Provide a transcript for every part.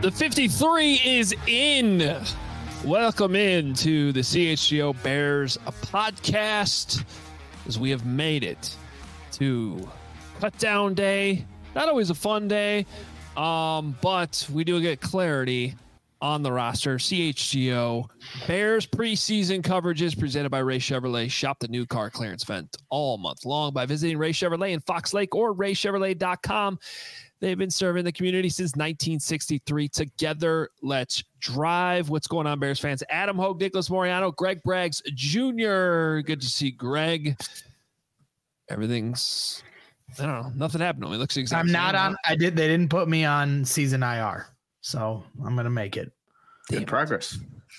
The 53 is in. Welcome in to the CHGO Bears podcast, as we have made it to cut down day. Not always a fun day, but we do get clarity on the roster. CHGO Bears preseason coverage is presented by Ray Chevrolet. Shop the new car clearance event all month long by visiting Ray Chevrolet in Fox Lake or raychevrolet.com. They've been serving the community since 1963. Together, let's drive. What's going on, Bears fans? Adam Hogue, Nicholas Moriano, Greg Braggs Jr. Good to see Greg. Everything's, I don't know, nothing happened. It looks exactly. I'm not on. They didn't put me on season IR, so I'm gonna make it. Good progress.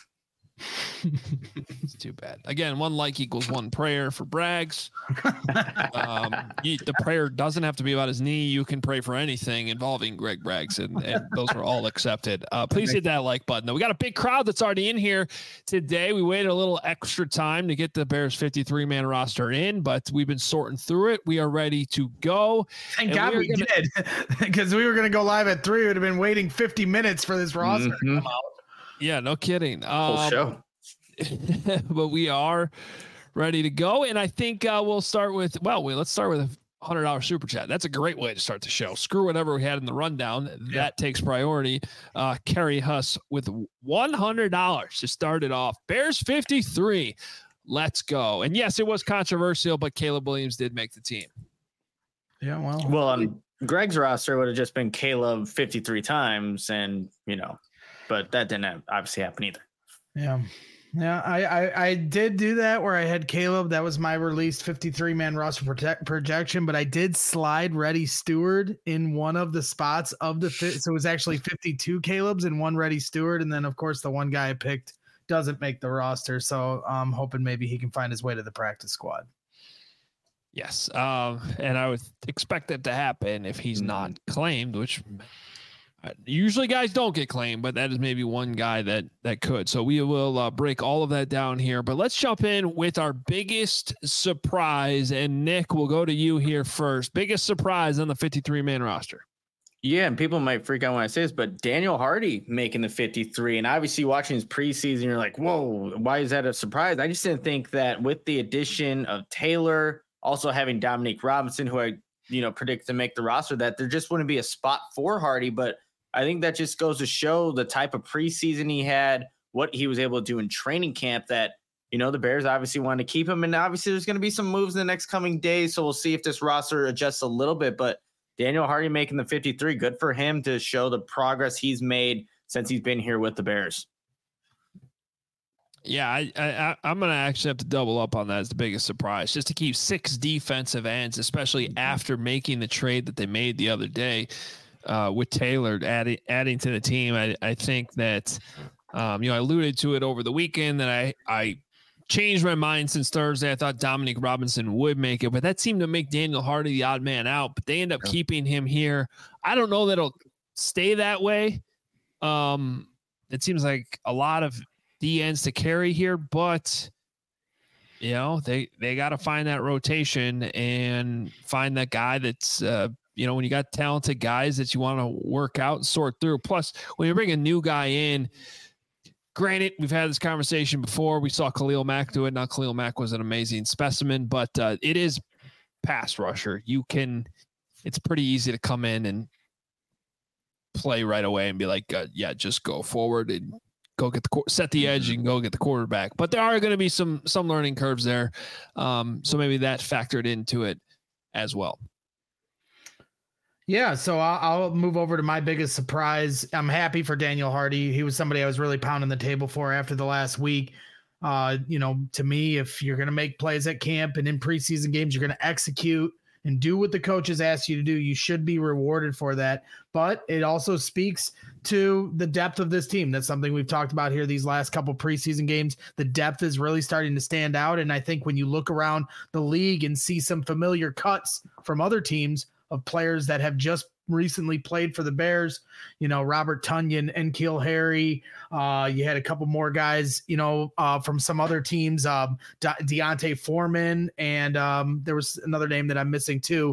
It's too bad. Again, one like equals one prayer for Braggs. The prayer doesn't have to be about his knee. You can pray for anything involving Greg Braggs, and those are all accepted. Please hit that like button. We got a big crowd that's already in here today. We waited a little extra time to get the Bears 53-man roster in, but we've been sorting through it. We are ready to go. Thank God we did, because we were going to go live at 3. We would have been waiting 50 minutes for this roster to come out. Yeah, no kidding. Whole show. But we are ready to go. And I think let's start with a $100 super chat. That's a great way to start the show. Screw whatever we had in the rundown. That takes priority. Kerry Huss with $100 to start it off. Bears 53. Let's go. And yes, it was controversial, but Caleb Williams did make the team. Yeah, well, on Greg's roster would have just been Caleb 53 times, and but that didn't obviously happen either. Yeah, I did do that where I had Caleb. That was my released 53-man roster projection, but I did slide Reddy Stewart in one of the spots of the fit. So it was actually 52 Calebs and one Reddy Stewart. And then, of course, the one guy I picked doesn't make the roster. So I'm hoping maybe he can find his way to the practice squad. Yes, and I would expect that to happen if he's not claimed, which usually guys don't get claimed, but that is maybe one guy that could. So we will break all of that down here. But let's jump in with our biggest surprise. And Nick, we'll go to you here first. Biggest surprise on the 53-man roster. Yeah, and people might freak out when I say this, but Daniel Hardy making the 53. And obviously watching his preseason, you're like, whoa, why is that a surprise? I just didn't think that with the addition of Taylor, also having Dominique Robinson, who I predict to make the roster, that there just wouldn't be a spot for Hardy. But I think that just goes to show the type of preseason he had, what he was able to do in training camp, that, the Bears obviously wanted to keep him. And obviously there's going to be some moves in the next coming days. So we'll see if this roster adjusts a little bit, but Daniel Hardy making the 53, good for him to show the progress he's made since he's been here with the Bears. Yeah, I'm going to actually have to double up on that as the biggest surprise, just to keep 6 defensive ends, especially after making the trade that they made the other day. With Taylor adding to the team. I think that, I alluded to it over the weekend that I changed my mind since Thursday. I thought Dominique Robinson would make it, but that seemed to make Daniel Hardy the odd man out, but they end up keeping him here. I don't know that it'll stay that way. It seems like a lot of D ends to carry here, but they got to find that rotation and find that guy that's, when you got talented guys that you want to work out and sort through. Plus, when you bring a new guy in, granted, we've had this conversation before. We saw Khalil Mack do it. Now, Khalil Mack was an amazing specimen, but it is pass rusher. It's pretty easy to come in and play right away and be like, just go forward and go get set the edge and go get the quarterback. But there are going to be some learning curves there. So maybe that factored into it as well. Yeah, so I'll move over to my biggest surprise. I'm happy for Daniel Hardy. He was somebody I was really pounding the table for after the last week. To me, if you're going to make plays at camp and in preseason games, you're going to execute and do what the coaches ask you to do. You should be rewarded for that. But it also speaks to the depth of this team. That's something we've talked about here these last couple preseason games. The depth is really starting to stand out. And I think when you look around the league and see some familiar cuts from other teams of players that have just recently played for the Bears, Robert Tonyan and N'Keal Harry. You had a couple more guys, from some other teams, Deontay Foreman, and there was another name that I'm missing too.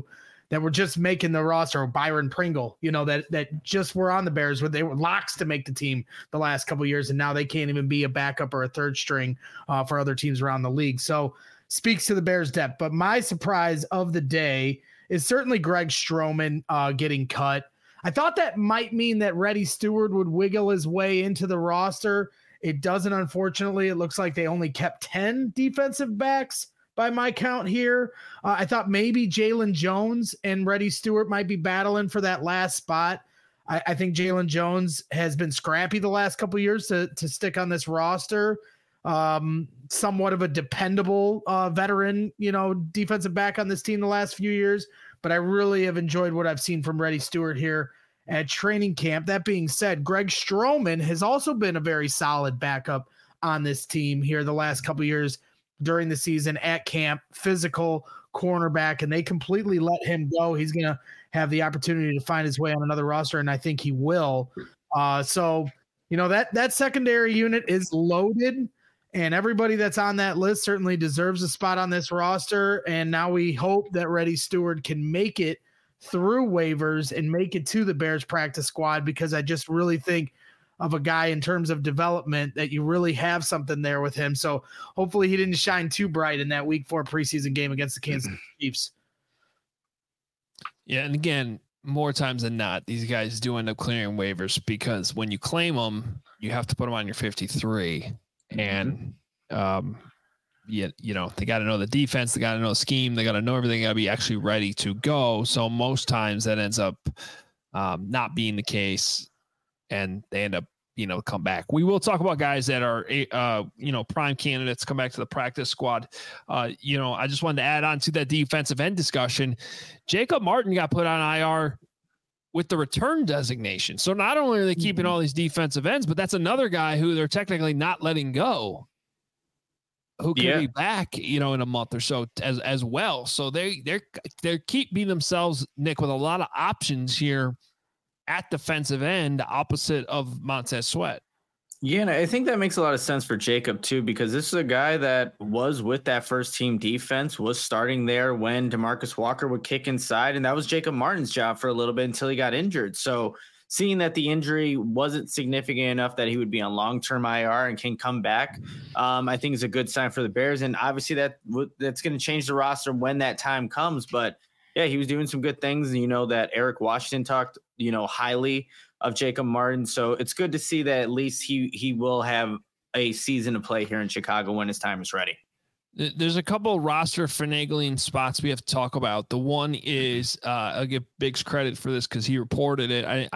that were just making the roster, or Byron Pringle, that just were on the Bears, where they were locks to make the team the last couple of years, and now they can't even be a backup or a third string for other teams around the league. So speaks to the Bears' depth. But my surprise of the day is certainly Greg Stroman getting cut. I thought that might mean that Reddy Stewart would wiggle his way into the roster. It doesn't, unfortunately. It looks like they only kept 10 defensive backs by my count here. I thought maybe Jalen Jones and Reddy Stewart might be battling for that last spot. I think Jalen Jones has been scrappy the last couple of years to stick on this roster. Somewhat of a dependable veteran, defensive back on this team the last few years. But I really have enjoyed what I've seen from Reddy Stewart here at training camp. That being said, Greg Stroman has also been a very solid backup on this team here the last couple of years during the season at camp, physical cornerback, and they completely let him go. He's going to have the opportunity to find his way on another roster, and I think he will. So that secondary unit is loaded, and everybody that's on that list certainly deserves a spot on this roster. And now we hope that Reddy Stewart can make it through waivers and make it to the Bears practice squad, because I just really think of a guy in terms of development that you really have something there with him. So hopefully he didn't shine too bright in that week 4 preseason game against the Kansas City Chiefs. Yeah. And again, more times than not, these guys do end up clearing waivers, because when you claim them, you have to put them on your 53. And, they got to know the defense, they got to know the scheme, they got to know everything, got to be actually ready to go. So most times that ends up not being the case, and they end up, come back. We will talk about guys that are, prime candidates come back to the practice squad. I just wanted to add on to that defensive end discussion. Jacob Martin got put on IR with the return designation. So not only are they keeping all these defensive ends, but that's another guy who they're technically not letting go, who could be back, in a month or so as well. So they're keeping themselves, Nick, with a lot of options here at defensive end, opposite of Montez Sweat. Yeah, and I think that makes a lot of sense for Jacob too, because this is a guy that was with that first team defense, was starting there when DeMarcus Walker would kick inside, and that was Jacob Martin's job for a little bit until he got injured. So seeing that the injury wasn't significant enough that he would be on long-term IR and can come back, I think is a good sign for the Bears. And obviously that's going to change the roster when that time comes. But yeah, he was doing some good things. That Eric Washington talked, highly of Jacob Martin. So it's good to see that at least he will have a season to play here in Chicago when his time is ready. There's a couple roster finagling spots we have to talk about. The one is I'll give Biggs credit for this because he reported it.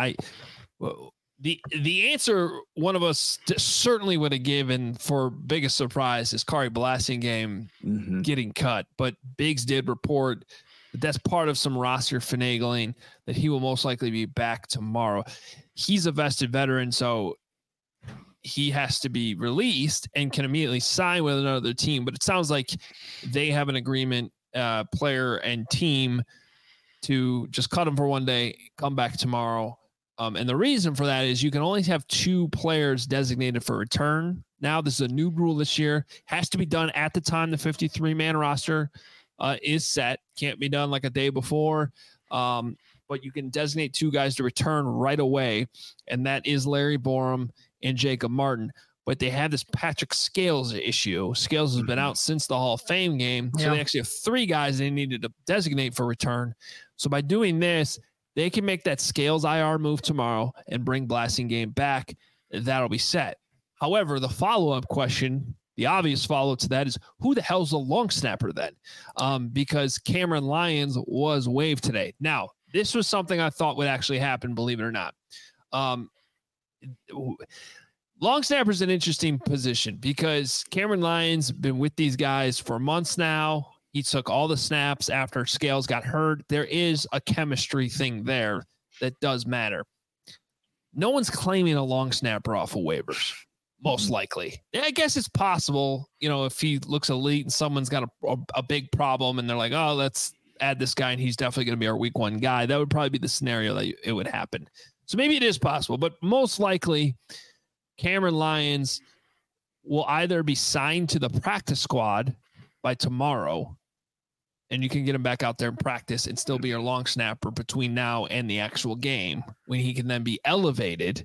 The answer one of us certainly would have given for biggest surprise is Kari Blasingame getting cut, but Biggs did report that that's part of some roster finagling, that he will most likely be back tomorrow. He's a vested veteran, so he has to be released and can immediately sign with another team. But it sounds like they have an agreement, player and team, to just cut him for one day, come back tomorrow. And the reason for that is you can only have 2 players designated for return. Now, this is a new rule this year. Has to be done at the time the 53-man roster is set. Can't be done like a day before. But you can designate 2 guys to return right away, and that is Larry Borom and Jacob Martin. But they have this Patrick Scales issue. Scales has been out since the Hall of Fame game, so they actually have 3 guys they needed to designate for return. So by doing this, they can make that Scales IR move tomorrow and bring Blasingame back. That'll be set. However, the follow-up question, the obvious follow-up to that is, who the hell's the long snapper then? Because Cameron Lyons was waived today. Now, this was something I thought would actually happen, believe it or not. Long snapper is an interesting position because Cameron Lyons been with these guys for months now. He took all the snaps after Scales got hurt. There is a chemistry thing there that does matter. No one's claiming a long snapper off of waivers, most likely. I guess it's possible, if he looks elite and someone's got a big problem and they're like, oh, let's add this guy and he's definitely going to be our week 1 guy. That would probably be the scenario that it would happen. So maybe it is possible, but most likely Cameron Lyons will either be signed to the practice squad by tomorrow and you can get him back out there and practice and still be your long snapper between now and the actual game when he can then be elevated.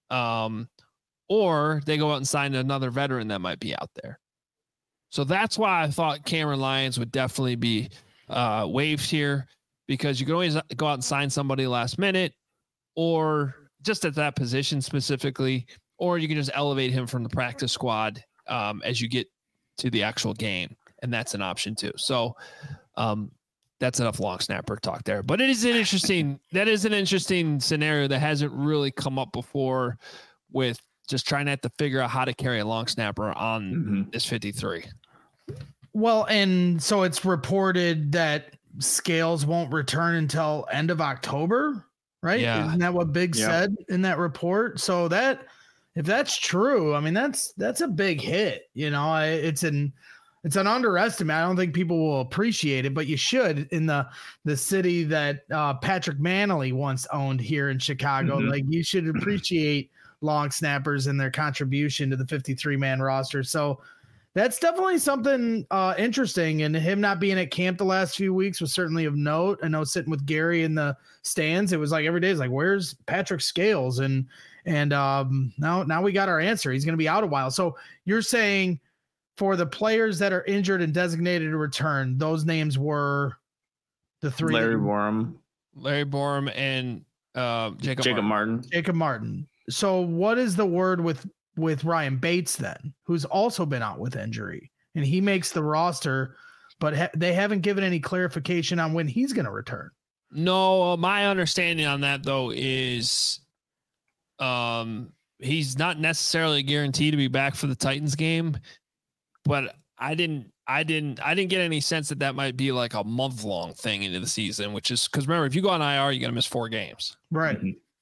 Or they go out and sign another veteran that might be out there. So that's why I thought Cameron Lyons would definitely be waived here, because you can always go out and sign somebody last minute, or just at that position specifically, or you can just elevate him from the practice squad as you get to the actual game. And that's an option too. So that's enough long snapper talk there, but it is an interesting scenario that hasn't really come up before, with just trying to have to figure out how to carry a long snapper on this 53. Well, and so it's reported that Scales won't return until end of October, right? Yeah. Isn't that what Big said in that report? So that, if that's true, I mean, that's a big hit. You know, it's an underestimate. I don't think people will appreciate it, but you should, in the city that Patrick Manley once owned here in Chicago. Like, you should appreciate long snappers and their contribution to the 53-man roster. So that's definitely something interesting. And him not being at camp the last few weeks was certainly of note. I know, sitting with Gary in the stands, it was like every day is like, where's Patrick Scales? And now we got our answer. He's going to be out a while. So you're saying for the players that are injured and designated to return, those names were the three: Larry Borom, and Jacob Martin. Jacob Martin. So what is the word with Ryan Bates then, who's also been out with injury, and he makes the roster, but they haven't given any clarification on when he's going to return? No, my understanding on that though is he's not necessarily guaranteed to be back for the Titans game, but I didn't get any sense that might be like a month-long thing into the season, which is, because remember, if you go on IR, you're going to miss 4 games. Right.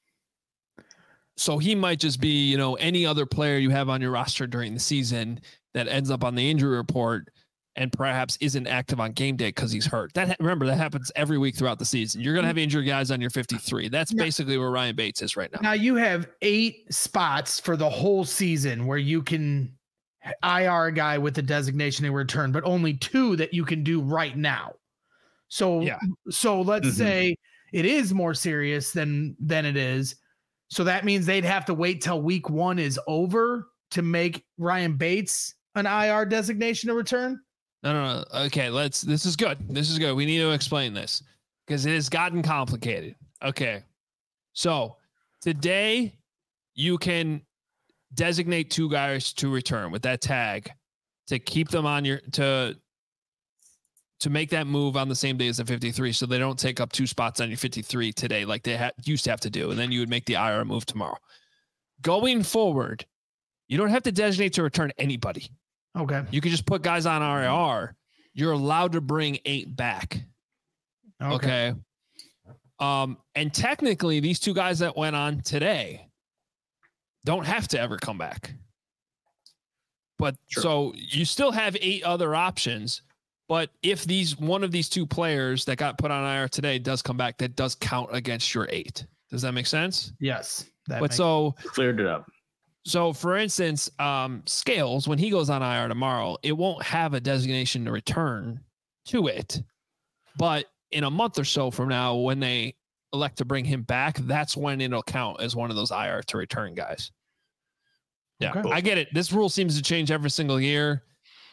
So he might just be, any other player you have on your roster during the season that ends up on the injury report and perhaps isn't active on game day because he's hurt. Remember, that happens every week throughout the season. You're going to have injured guys on your 53. That's basically where Ryan Bates is right now. Now you have 8 spots for the whole season where you can IR a guy with a designation to return, but only 2 that you can do right now. So, so let's say it is more serious than it is. So that means they'd have to wait till week 1 is over to make Ryan Bates an IR designation to return. No. Okay, this is good. We need to explain this because it has gotten complicated. Okay. So today you can designate 2 guys to return with that tag to keep them on your, to make that move on the same day as the 53. So they don't take up 2 spots on your 53 today, like they used to have to do. And then you would make the IR move tomorrow. Going forward, you don't have to designate to return anybody. Okay. You can just put guys on IR. You're allowed to bring 8 back. Okay. And technically these 2 guys that went on today don't have to ever come back. But so you still have 8 other options. But if one of these 2 players that got put on IR today does come back, that does count against your 8. Does that make sense? Yes. Cleared it up. So for instance, Scales, when he goes on IR tomorrow, it won't have a designation to return to it. But in a month or so from now, when they elect to bring him back, that's when it'll count as one of those IR to return guys. Yeah, okay. I get it. This rule seems to change every single year.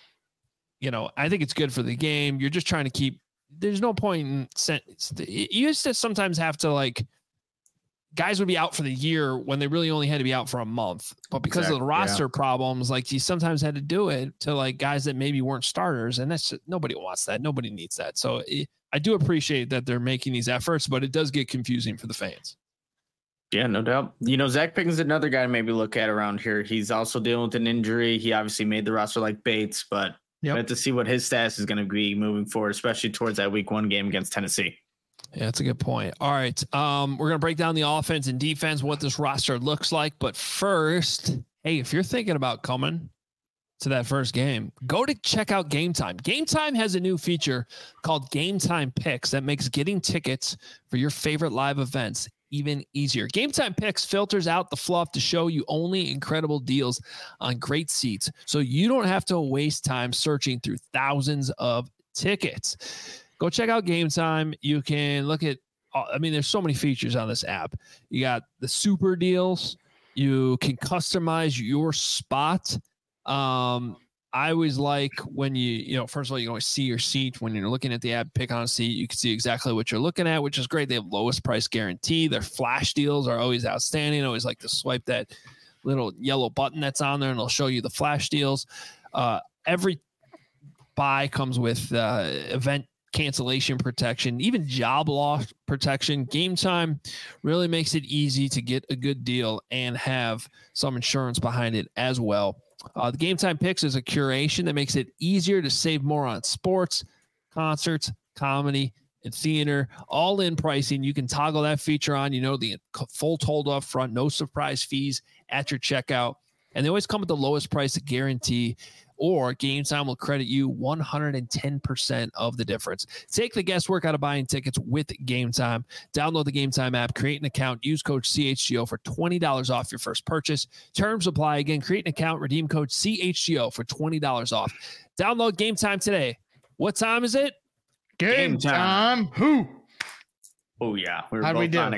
I think it's good for the game. You're just trying to keep, there's no point in you used to sometimes have to guys would be out for the year when they really only had to be out for a month, but because of the roster problems, you sometimes had to do it to guys that maybe weren't starters. And that's nobody wants that. Nobody needs that. So I do appreciate that they're making these efforts, but it does get confusing for the fans. Yeah, no doubt. Zach Pickens is another guy to maybe look at around here. He's also dealing with an injury. He obviously made the roster like Bates, but we have to see what his status is going to be moving forward, especially towards that week 1 game against Tennessee. Yeah, that's a good point. All right. We're going to break down the offense and defense, what this roster looks like. But first, hey, if you're thinking about coming to that first game, go to check out Game Time. Game Time has a new feature called Game Time Picks that makes getting tickets for your favorite live events even easier. Game Time Picks filters out the fluff to show you only incredible deals on great seats, so you don't have to waste time searching through thousands of tickets. go check out Game Time. You can look at, I mean, there's so many features on this app. You got the super deals. You can customize your spot. I always like when first of all, you can always see your seat when you're looking at the app, pick on a seat. You can see exactly what you're looking at, which is great. They have lowest price guarantee. Their flash deals are always outstanding. I always like to swipe that little yellow button that's on there and it'll show you the flash deals. Every buy comes with event cancellation protection, even job loss protection. Game Time really makes it easy to get a good deal and have some insurance behind it as well. The Game Time Picks is a curation that makes it easier to save more on sports, concerts, comedy, and theater. All in pricing. You can toggle that feature on. The full total up front, no surprise fees at your checkout. And they always come with the lowest price guarantee, or Game Time will credit you 110% of the difference. Take the guesswork out of buying tickets with Game Time. Download the Game Time app, create an account, use code CHGO for $20 off your first purchase. Terms apply. Again, create an account, redeem code CHGO for $20 off. Download Game Time today. What time is it? Game time. Who? Oh yeah, How do we do?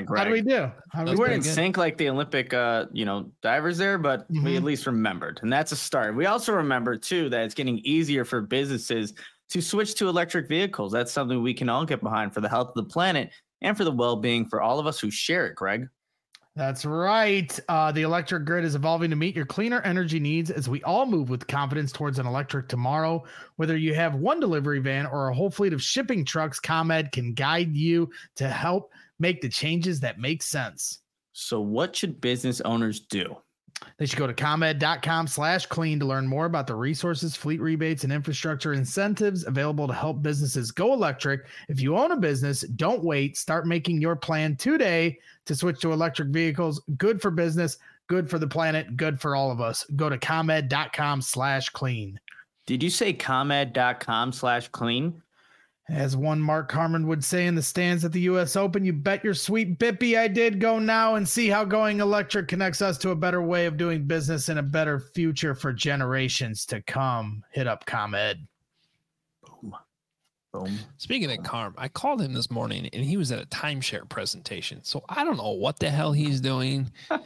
We weren't in sync like the Olympic, divers there, but we at least remembered, and that's a start. We also remember too that it's getting easier for businesses to switch to electric vehicles. That's something we can all get behind for the health of the planet and for the well-being for all of us who share it. Greg. That's right. The electric grid is evolving to meet your cleaner energy needs as we all move with confidence towards an electric tomorrow. Whether you have one delivery van or a whole fleet of shipping trucks, ComEd can guide you to help make the changes that make sense. So what should business owners do? They should go to ComEd.com/clean to learn more about the resources, fleet rebates, and infrastructure incentives available to help businesses go electric. If you own a business, don't wait. Start making your plan today to switch to electric vehicles. Good for business, good for the planet, good for all of us. Go to ComEd.com/clean. Did you say ComEd.com/clean? As one Mark Harmon would say in the stands at the U.S. Open, you bet your sweet bippy I did go now and see how going electric connects us to a better way of doing business and a better future for generations to come. Hit up ComEd. Boom. Speaking of Carm, I called him this morning and he was at a timeshare presentation. So I don't know what the hell he's doing.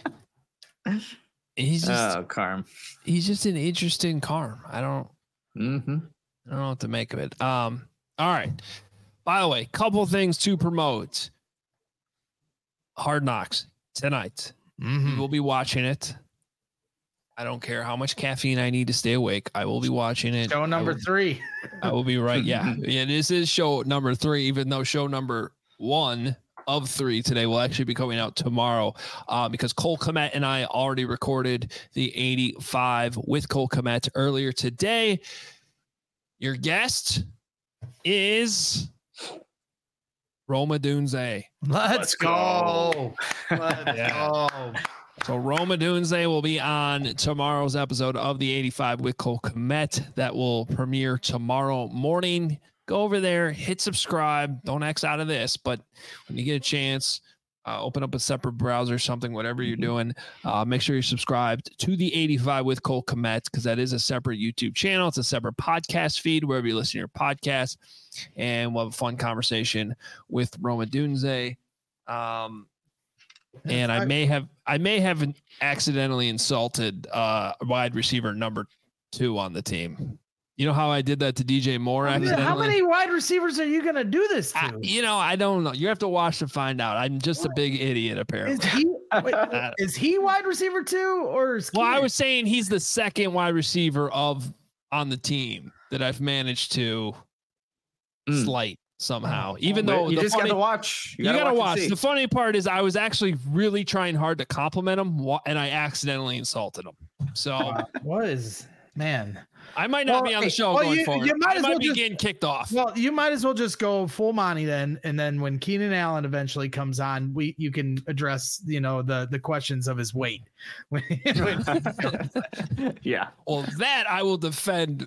He's just Carm. He's just an interesting Carm. I don't know what to make of it. All right. By the way, couple things to promote. Hard Knocks tonight. We will be watching it. I don't care how much caffeine I need to stay awake. I will be watching it. Show number 3. I will be right. Yeah. This is show number 3, even though show number 1 of 3 today will actually be coming out tomorrow because Cole Kmet and I already recorded the 85 with Cole Kmet earlier today. Your guest is Rome Odunze. Let's go. Let's go. So Rome Odunze will be on tomorrow's episode of the 85 with Cole Kmet. That will premiere tomorrow morning. Go over there, hit subscribe. Don't X out of this, but when you get a chance, open up a separate browser, something, whatever you're doing. Make sure you're subscribed to the 85 with Cole Kmet because that is a separate YouTube channel. It's a separate podcast feed wherever you listen to your podcast. And we'll have a fun conversation with Rome Odunze. And I may have accidentally insulted wide receiver number 2 on the team. You know how I did that to DJ Moore accidentally? How many wide receivers are you going to do this to? I don't know. You have to watch to find out. I'm just a big idiot, apparently. Is he wide receiver 2 or is Well, I was saying he's the second wide receiver on the team that I've managed to slight somehow. Even though you just got to watch. You got to watch. The funny part is I was actually really trying hard to compliment him and I accidentally insulted him. So man. I might not be on the show going forward. I might be getting kicked off. Well, you might as well just go full Monty then, and then when Keenan Allen eventually comes on, you can address the questions of his weight. Yeah. Well, that I will defend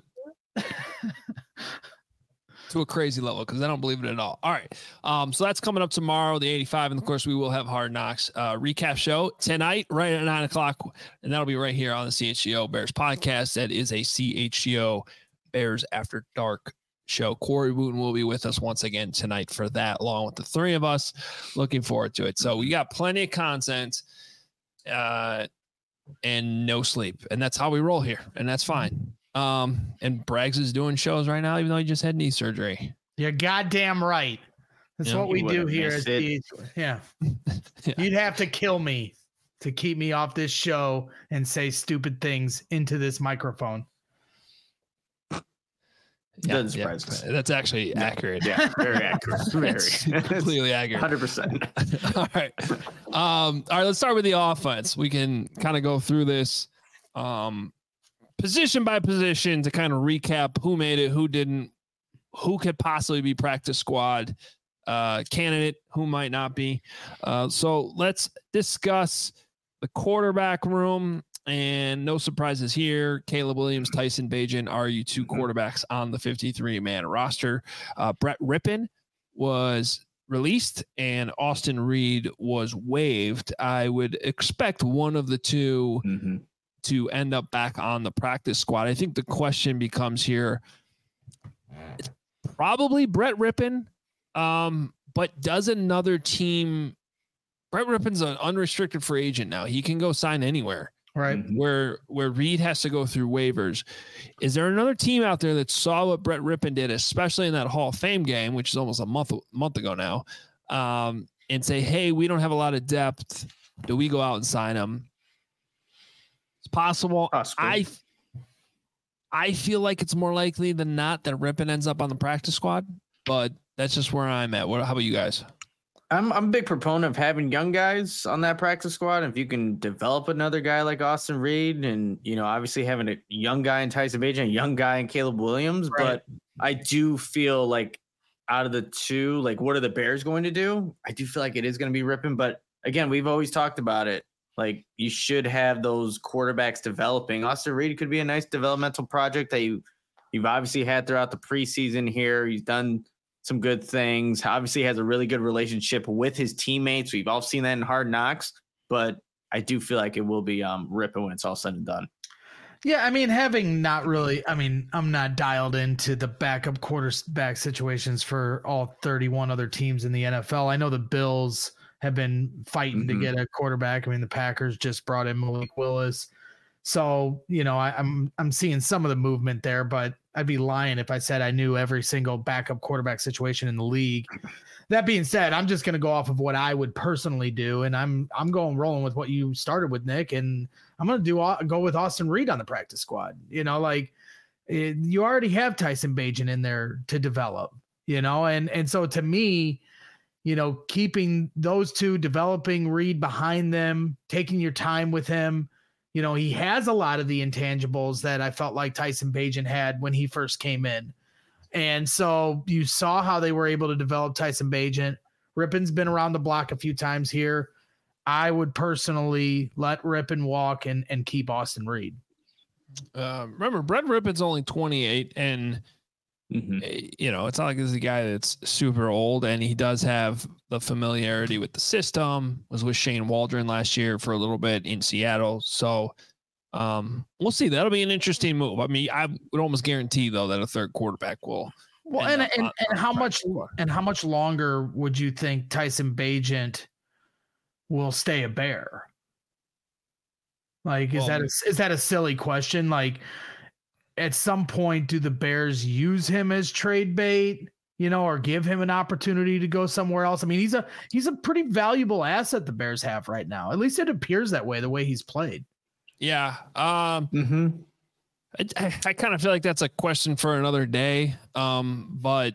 to a crazy level because I don't believe it at all. All right. So that's coming up tomorrow, the 85. And of course, we will have Hard Knocks recap show tonight, right at 9:00. And that'll be right here on the CHGO Bears podcast. That is a CHGO Bears After Dark show. Corey Wooten will be with us once again tonight for that, along with the three of us. Looking forward to it. So we got plenty of content and no sleep. And that's how we roll here. And that's fine. And Braggs is doing shows right now, even though he just had knee surgery. You're goddamn right. That's what we do here. Yeah. You'd have to kill me to keep me off this show and say stupid things into this microphone. Doesn't surprise us. That's actually accurate. Yeah, very accurate. Very completely accurate. 100%. All right. All right, let's start with the offense. We can kind of go through this position by position to kind of recap who made it, who didn't, who could possibly be practice squad candidate, who might not be. So let's discuss the quarterback room. And no surprises here. Caleb Williams, Tyson Bagent are you two quarterbacks on the 53-man roster. Brett Rippon was released and Austin Reed was waived. I would expect one of the two to end up back on the practice squad. I think the question becomes here, it's probably Brett Rippon, but does another team, Brett Rippon's an unrestricted free agent now. He can go sign anywhere. Right. Where Reed has to go through waivers. Is there another team out there that saw what Brett Rippon did, especially in that Hall of Fame game, which is almost a month ago now, and say, hey, we don't have a lot of depth. Do we go out and sign him? It's possible. I feel like it's more likely than not that Rippon ends up on the practice squad, but that's just where I'm at. How about you guys? I'm a big proponent of having young guys on that practice squad. If you can develop another guy like Austin Reed and, obviously having a young guy in Tyson Bagent, a young guy in Caleb Williams. Right. But I do feel like out of the two, like, what are the Bears going to do? I do feel like it is going to be Rippon. But again, we've always talked about it. Like, you should have those quarterbacks developing. Austin Reed could be a nice developmental project that you've obviously had throughout the preseason here. He's done some good things. Obviously has a really good relationship with his teammates. We've all seen that in Hard Knocks, but I do feel like it will be Rippon when it's all said and done. Yeah, I mean, I'm not dialed into the backup quarterback situations for all 31 other teams in the NFL. I know the Bills have been fighting to get a quarterback. I mean, the Packers just brought in Malik Willis. So, I'm seeing some of the movement there, but I'd be lying if I said I knew every single backup quarterback situation in the league. That being said, I'm just going to go off of what I would personally do, and I'm rolling with what you started with, Nick, and I'm going to go with Austin Reed on the practice squad. You already have Tyson Bagent in there to develop, and so to me, keeping those two, developing Reed behind them, taking your time with him. He has a lot of the intangibles that I felt like Tyson Bagent had when he first came in. And so you saw how they were able to develop Tyson Bagent. Rippon's been around the block a few times here. I would personally let Rippon walk and keep Austin Reed. Remember, Brett Rippon's only 28, and it's not like this is a guy that's super old, and he does have the familiarity with the system. Was with Shane Waldron last year for a little bit in Seattle. So we'll see. That'll be an interesting move. I mean, I would almost guarantee though that a third quarterback will. Well, and how much longer would you think Tyson Bagent will stay a Bear? Like, is that a silly question? Like, at some point, do the Bears use him as trade bait, or give him an opportunity to go somewhere else? I mean, he's a pretty valuable asset the Bears have right now. At least it appears that way, the way he's played. Yeah. I kind of feel like that's a question for another day. But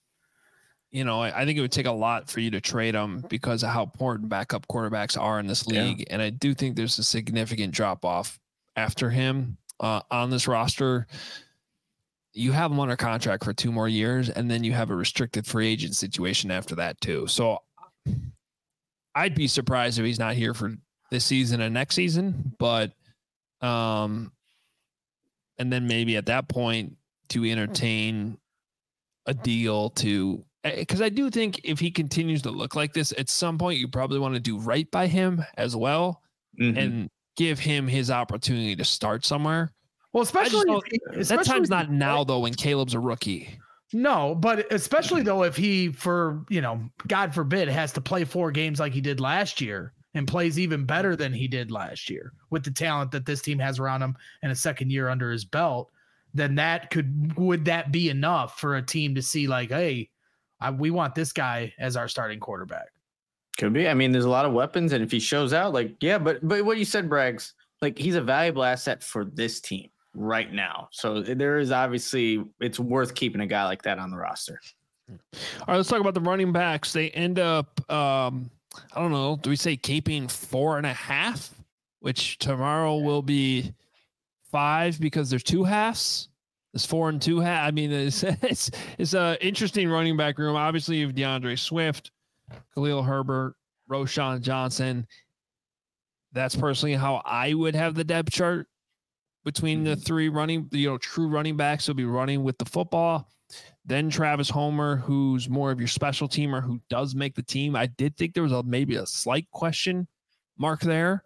I think it would take a lot for you to trade him because of how important backup quarterbacks are in this league. Yeah. And I do think there's a significant drop off after him. On this roster, you have him under contract for 2 more years, and then you have a restricted free agent situation after that too. So I'd be surprised if he's not here for this season and next season, but and then maybe at that point to entertain a deal because I do think if he continues to look like this, at some point you probably want to do right by him as well and give him his opportunity to start somewhere. Well, especially that time's not now though when Caleb's a rookie. No, but especially though, if he, God forbid, has to play 4 games like he did last year and plays even better than he did last year with the talent that this team has around him and a second year under his belt, then would that be enough for a team to see like, hey, we want this guy as our starting quarterback? Could be. I mean, there's a lot of weapons, and if he shows out, like, yeah, but what you said, Braggs, like, he's a valuable asset for this team right now. So there is obviously, it's worth keeping a guy like that on the roster. All right, let's talk about the running backs. They end up, I don't know, do we say keeping 4.5, which tomorrow will be 5 because there's 2 halves. It's 4 and 2 half. I mean, it's a interesting running back room. Obviously, you have DeAndre Swift, Khalil Herbert, Roschon Johnson. That's personally how I would have the depth chart between the 3 true running backs will be running with the football. Then Travis Homer, who's more of your special teamer, who does make the team. I did think there was maybe a slight question mark there.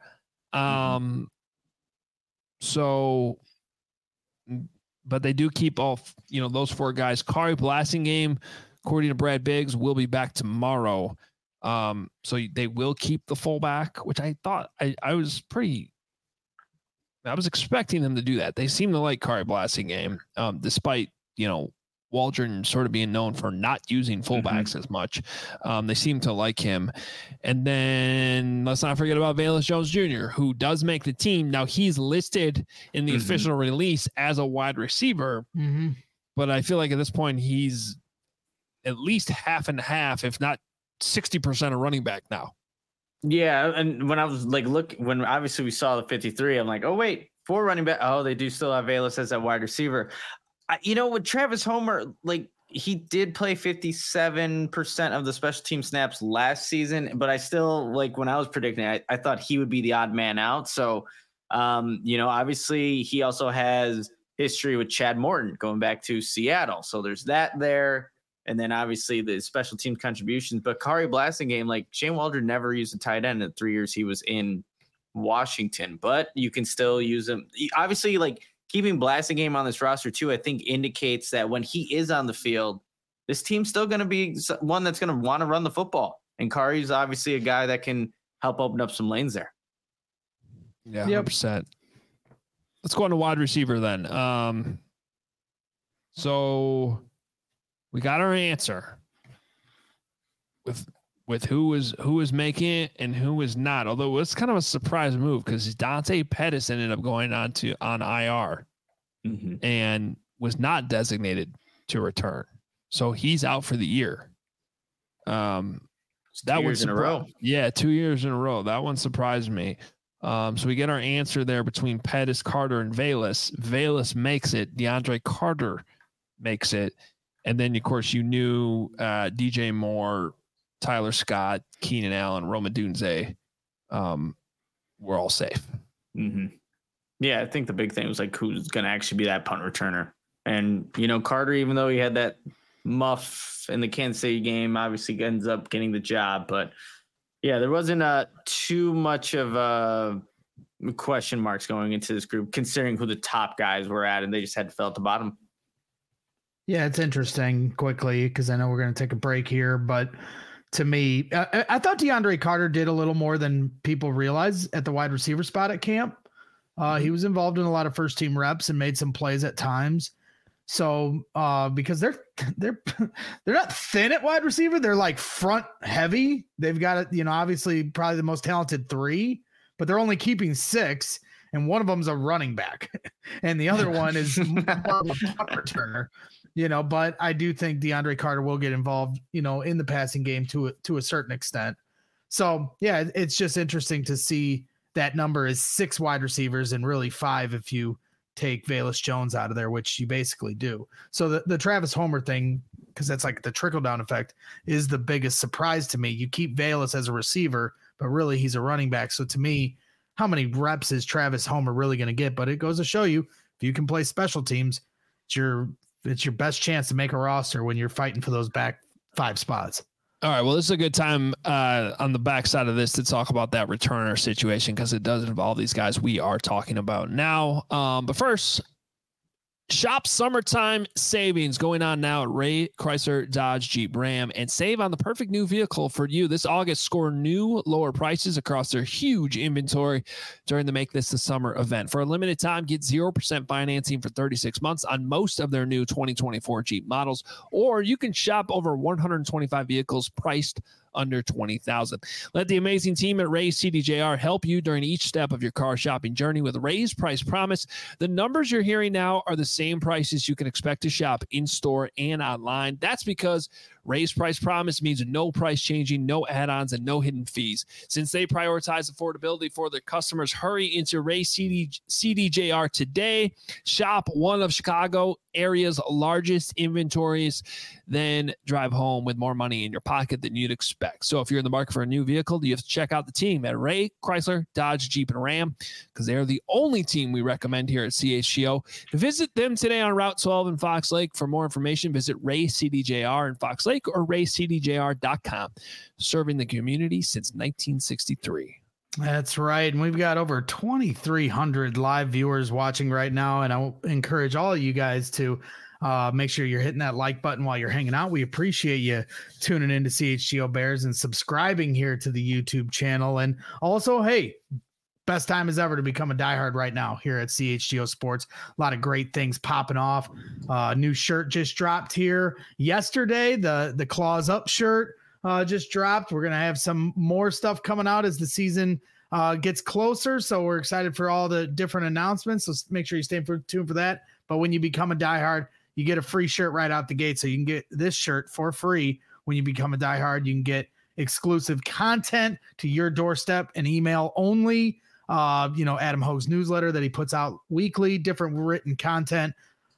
So, but they do keep all, those 4 guys. Kari Blasingame, according to Brad Biggs, will be back tomorrow. So they will keep the fullback, which I thought I was expecting them to do that. They seem to like Kari Blasingame, despite, Waldron sort of being known for not using fullbacks as much. They seem to like him. And then let's not forget about Velus Jones Jr., who does make the team. Now he's listed in the official release as a wide receiver, but I feel like at this point he's at least half and half, if not 60% of running back now. Yeah. And when I was like, when obviously we saw the 53, I'm like, oh wait, 4 running back. Oh, they do still have Velus as a wide receiver. With Travis Homer, like, he did play 57% of the special team snaps last season, but I still, like, when I was predicting, I thought he would be the odd man out. So, obviously he also has history with Chad Morton going back to Seattle. So there's that there. And then obviously the special team contributions, but Kari Blasingame, like, Shane Waldron never used a tight end in the 3 years he was in Washington, but you can still use him. Obviously, like, keeping Blasingame on this roster too, I think indicates that when he is on the field, this team's still going to be one that's going to want to run the football. And Kari's obviously a guy that can help open up some lanes there. Yeah, 100%. Let's go on to wide receiver then. So we got our answer with who was making it and who was not. Although it was kind of a surprise move because Dante Pettis ended up going on IR and was not designated to return. So he's out for the year. That was in a row. Yeah, 2 years in a row. That one surprised me. So we get our answer there between Pettis, Carter, and Velus. Velus makes it. DeAndre Carter makes it. And then, of course, you knew DJ Moore, Tyler Scott, Keenan Allen, Rome Odunze were all safe. Yeah, I think the big thing was like who's going to actually be that punt returner. And, Carter, even though he had that muff in the Kansas City game, obviously ends up getting the job. But, yeah, there wasn't too much of question marks going into this group, considering who the top guys were at, and they just had to fill at the bottom. Yeah, it's interesting quickly because I know we're going to take a break here, but to me, I thought DeAndre Carter did a little more than people realize at the wide receiver spot at camp. He was involved in a lot of first team reps and made some plays at times. So because they're not thin at wide receiver, they're like front heavy. They've got obviously probably the most talented 3, but they're only keeping 6, and one of them's a running back, and the other one is more of a punt returner. But I do think DeAndre Carter will get involved, in the passing game to a certain extent. So yeah, it's just interesting to see that number is 6 wide receivers and really 5 if you take Velus Jones out of there, which you basically do. So the Travis Homer thing, because that's like the trickle down effect, is the biggest surprise to me. You keep Velus as a receiver, but really he's a running back. So to me, how many reps is Travis Homer really going to get? But it goes to show you, if you can play special teams, it's your best chance to make a roster when you're fighting for those back 5 spots. All right. Well, this is a good time on the backside of this to talk about that returner situation because it does involve these guys we are talking about now. But first, Shop summertime savings going on now at Ray Chrysler Dodge Jeep Ram and save on the perfect new vehicle for you. This August, score new lower prices across their huge inventory during the Make This the Summer event. For a limited time, get 0% financing for 36 months on most of their new 2024 Jeep models, or you can shop over 125 vehicles priced under $20,000. Let the amazing team at Ray's CDJR help you during each step of your car shopping journey with Ray's Price Promise. The numbers you're hearing now are the same prices you can expect to shop in-store and online. That's because Ray's Price Promise means no price changing, no add-ons, and no hidden fees. Since they prioritize affordability for their customers, hurry into Ray's CDJR today. Shop one of Chicago area's largest inventories, then drive home with more money in your pocket than you'd expect. So if you're in the market for a new vehicle, you have to check out the team at Ray Chrysler Dodge Jeep and Ram, because they're the only team we recommend here at CHGO. Visit them today on Route 12 in Fox Lake. For more information, visit Ray CDJR in Fox Lake or raycdjr.com. Serving the community since 1963. That's right. And we've got over 2,300 live viewers watching right now. And I encourage all of you guys to make sure you're hitting that like button while you're hanging out. We appreciate you tuning into CHGO Bears and subscribing here to the YouTube channel. And also, hey, best time as ever to become a diehard right now here at CHGO Sports. A lot of great things popping off. New shirt just dropped here yesterday. The Claws Up shirt just dropped. We're going to have some more stuff coming out as the season gets closer. So we're excited for all the different announcements. So make sure you stay tuned for that. But when you become a diehard, you get a free shirt right out the gate. So you can get this shirt for free when you become a diehard. You can get exclusive content to your doorstep and email only. Adam Hogue's newsletter that he puts out weekly, different written content,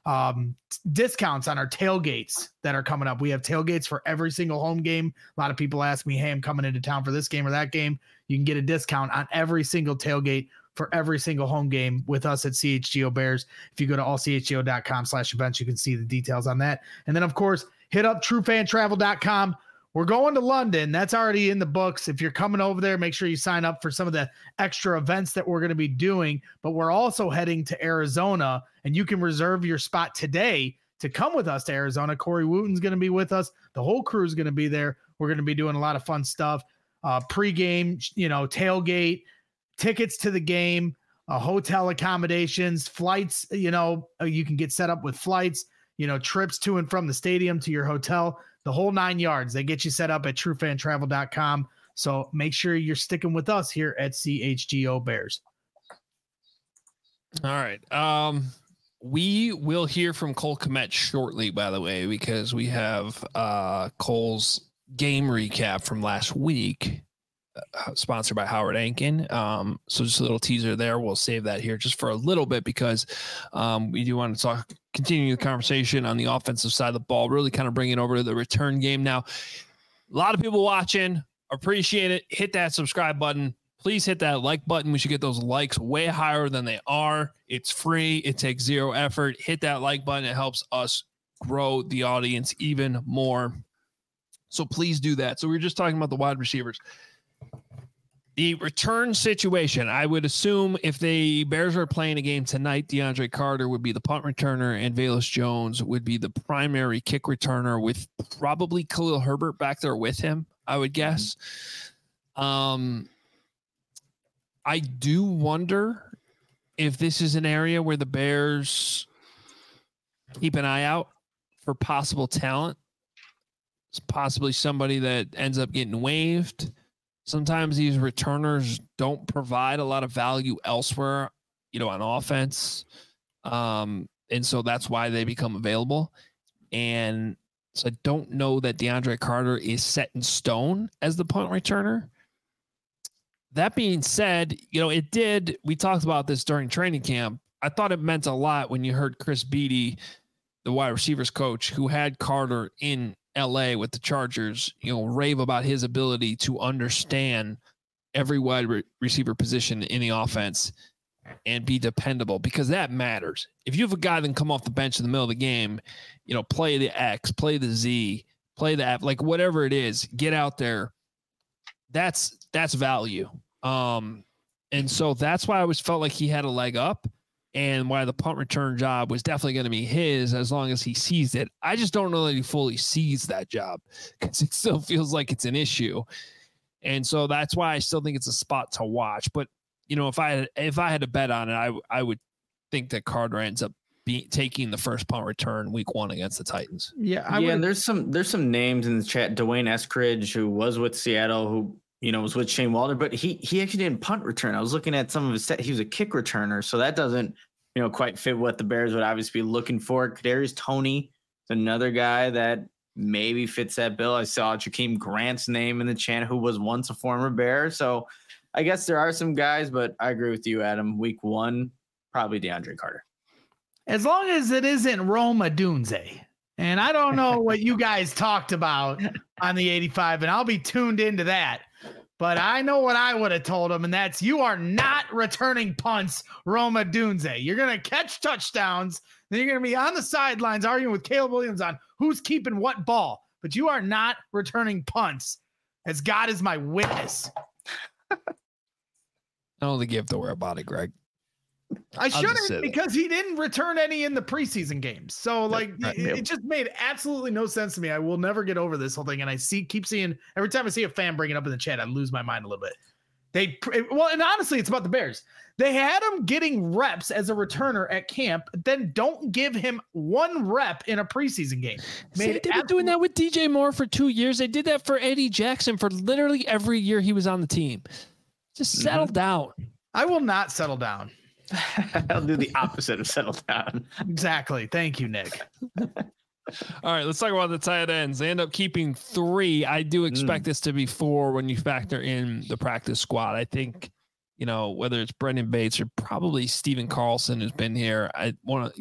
discounts on our tailgates that are coming up. We have tailgates for every single home game. A lot of people ask me, hey, I'm coming into town for this game or that game. You can get a discount on every single tailgate for every single home game with us at CHGO Bears. If you go to allchgo.com/events, you can see the details on that. And then, of course, hit up truefantravel.com. We're going to London. That's already in the books. If you're coming over there, make sure you sign up for some of the extra events that we're going to be doing. But we're also heading to Arizona, and you can reserve your spot today to come with us to Arizona. Corey Wooten's going to be with us. The whole crew is going to be there. We're going to be doing a lot of fun stuff. Pre-game, tailgate, tickets to the game, hotel accommodations, flights. You can get set up with flights, trips to and from the stadium to your hotel. The whole 9 yards. They get you set up at truefantravel.com. So make sure you're sticking with us here at CHGO Bears. All right. We will hear from Cole Kmet shortly, by the way, because we have Cole's game recap from last week, sponsored by Howard Ankin. So just a little teaser there. We'll save that here just for a little bit because we do want to continue the conversation on the offensive side of the ball, really kind of bring it over to the return game. Now, a lot of people watching, appreciate it. Hit that subscribe button. Please hit that like button. We should get those likes way higher than they are. It's free. It takes zero effort. Hit that like button. It helps us grow the audience even more. So please do that. So we were just talking about the wide receivers. The return situation, I would assume if the Bears are playing a game tonight, DeAndre Carter would be the punt returner and Velus Jones would be the primary kick returner with probably Khalil Herbert back there with him, I would guess. I do wonder if this is an area where the Bears keep an eye out for possible talent. It's possibly somebody that ends up getting waived. Sometimes these returners don't provide a lot of value elsewhere, on offense. And so that's why they become available. And so I don't know that DeAndre Carter is set in stone as the punt returner. That being said, we talked about this during training camp. I thought it meant a lot when you heard Chris Beatty, the wide receivers coach who had Carter in LA with the Chargers, rave about his ability to understand every wide receiver position in the offense and be dependable, because that matters. If you have a guy that can come off the bench in the middle of the game, play the X, play the Z, play the F, like whatever it is, get out there. That's value. And so that's why I always felt like he had a leg up. and why the punt return job was definitely going to be his as long as he seized it. I just don't know that he fully sees that job because it still feels like it's an issue. And so that's why I still think it's a spot to watch. But, if I had to bet on it, I would think that Carter ends up taking the first punt return week 1 against the Titans. Yeah. And there's some names in the chat. Dwayne Eskridge, who was with Seattle, who, was with Shane Waldron, but he actually didn't punt return. I was looking at some of his set. He was a kick returner. So that doesn't, quite fit what the Bears would obviously be looking for. Kadarius Toney is another guy that maybe fits that bill. I saw Jakeem Grant's name in the chat, who was once a former Bear. So I guess there are some guys, but I agree with you, Adam. Week 1, probably DeAndre Carter. As long as it isn't Rome Odunze. And I don't know what you guys talked about on the 85, and I'll be tuned into that. But I know what I would have told him, and that's you are not returning punts, Rome Odunze. You're going to catch touchdowns. Then you're going to be on the sidelines arguing with Caleb Williams on who's keeping what ball. But you are not returning punts, as God is my witness. I don't think you have to worry about it, Greg. I shouldn't, because he didn't return any in the preseason games. So it just made absolutely no sense to me. I will never get over this whole thing. And I keep seeing every time I see a fan bring it up in the chat, I lose my mind a little bit. And honestly, it's about the Bears. They had him getting reps as a returner at camp, then don't give him 1 rep in a preseason game. They've been doing that with DJ Moore for 2 years. They did that for Eddie Jackson for literally every year he was on the team. Just settle down. I will not settle down. I'll do the opposite of settle down. Exactly. Thank you, Nick. All right, let's talk about the tight ends. They end up keeping 3. I do expect this to be 4 when you factor in the practice squad. I think, whether it's Brendan Bates or probably Steven Carlson who's been here, I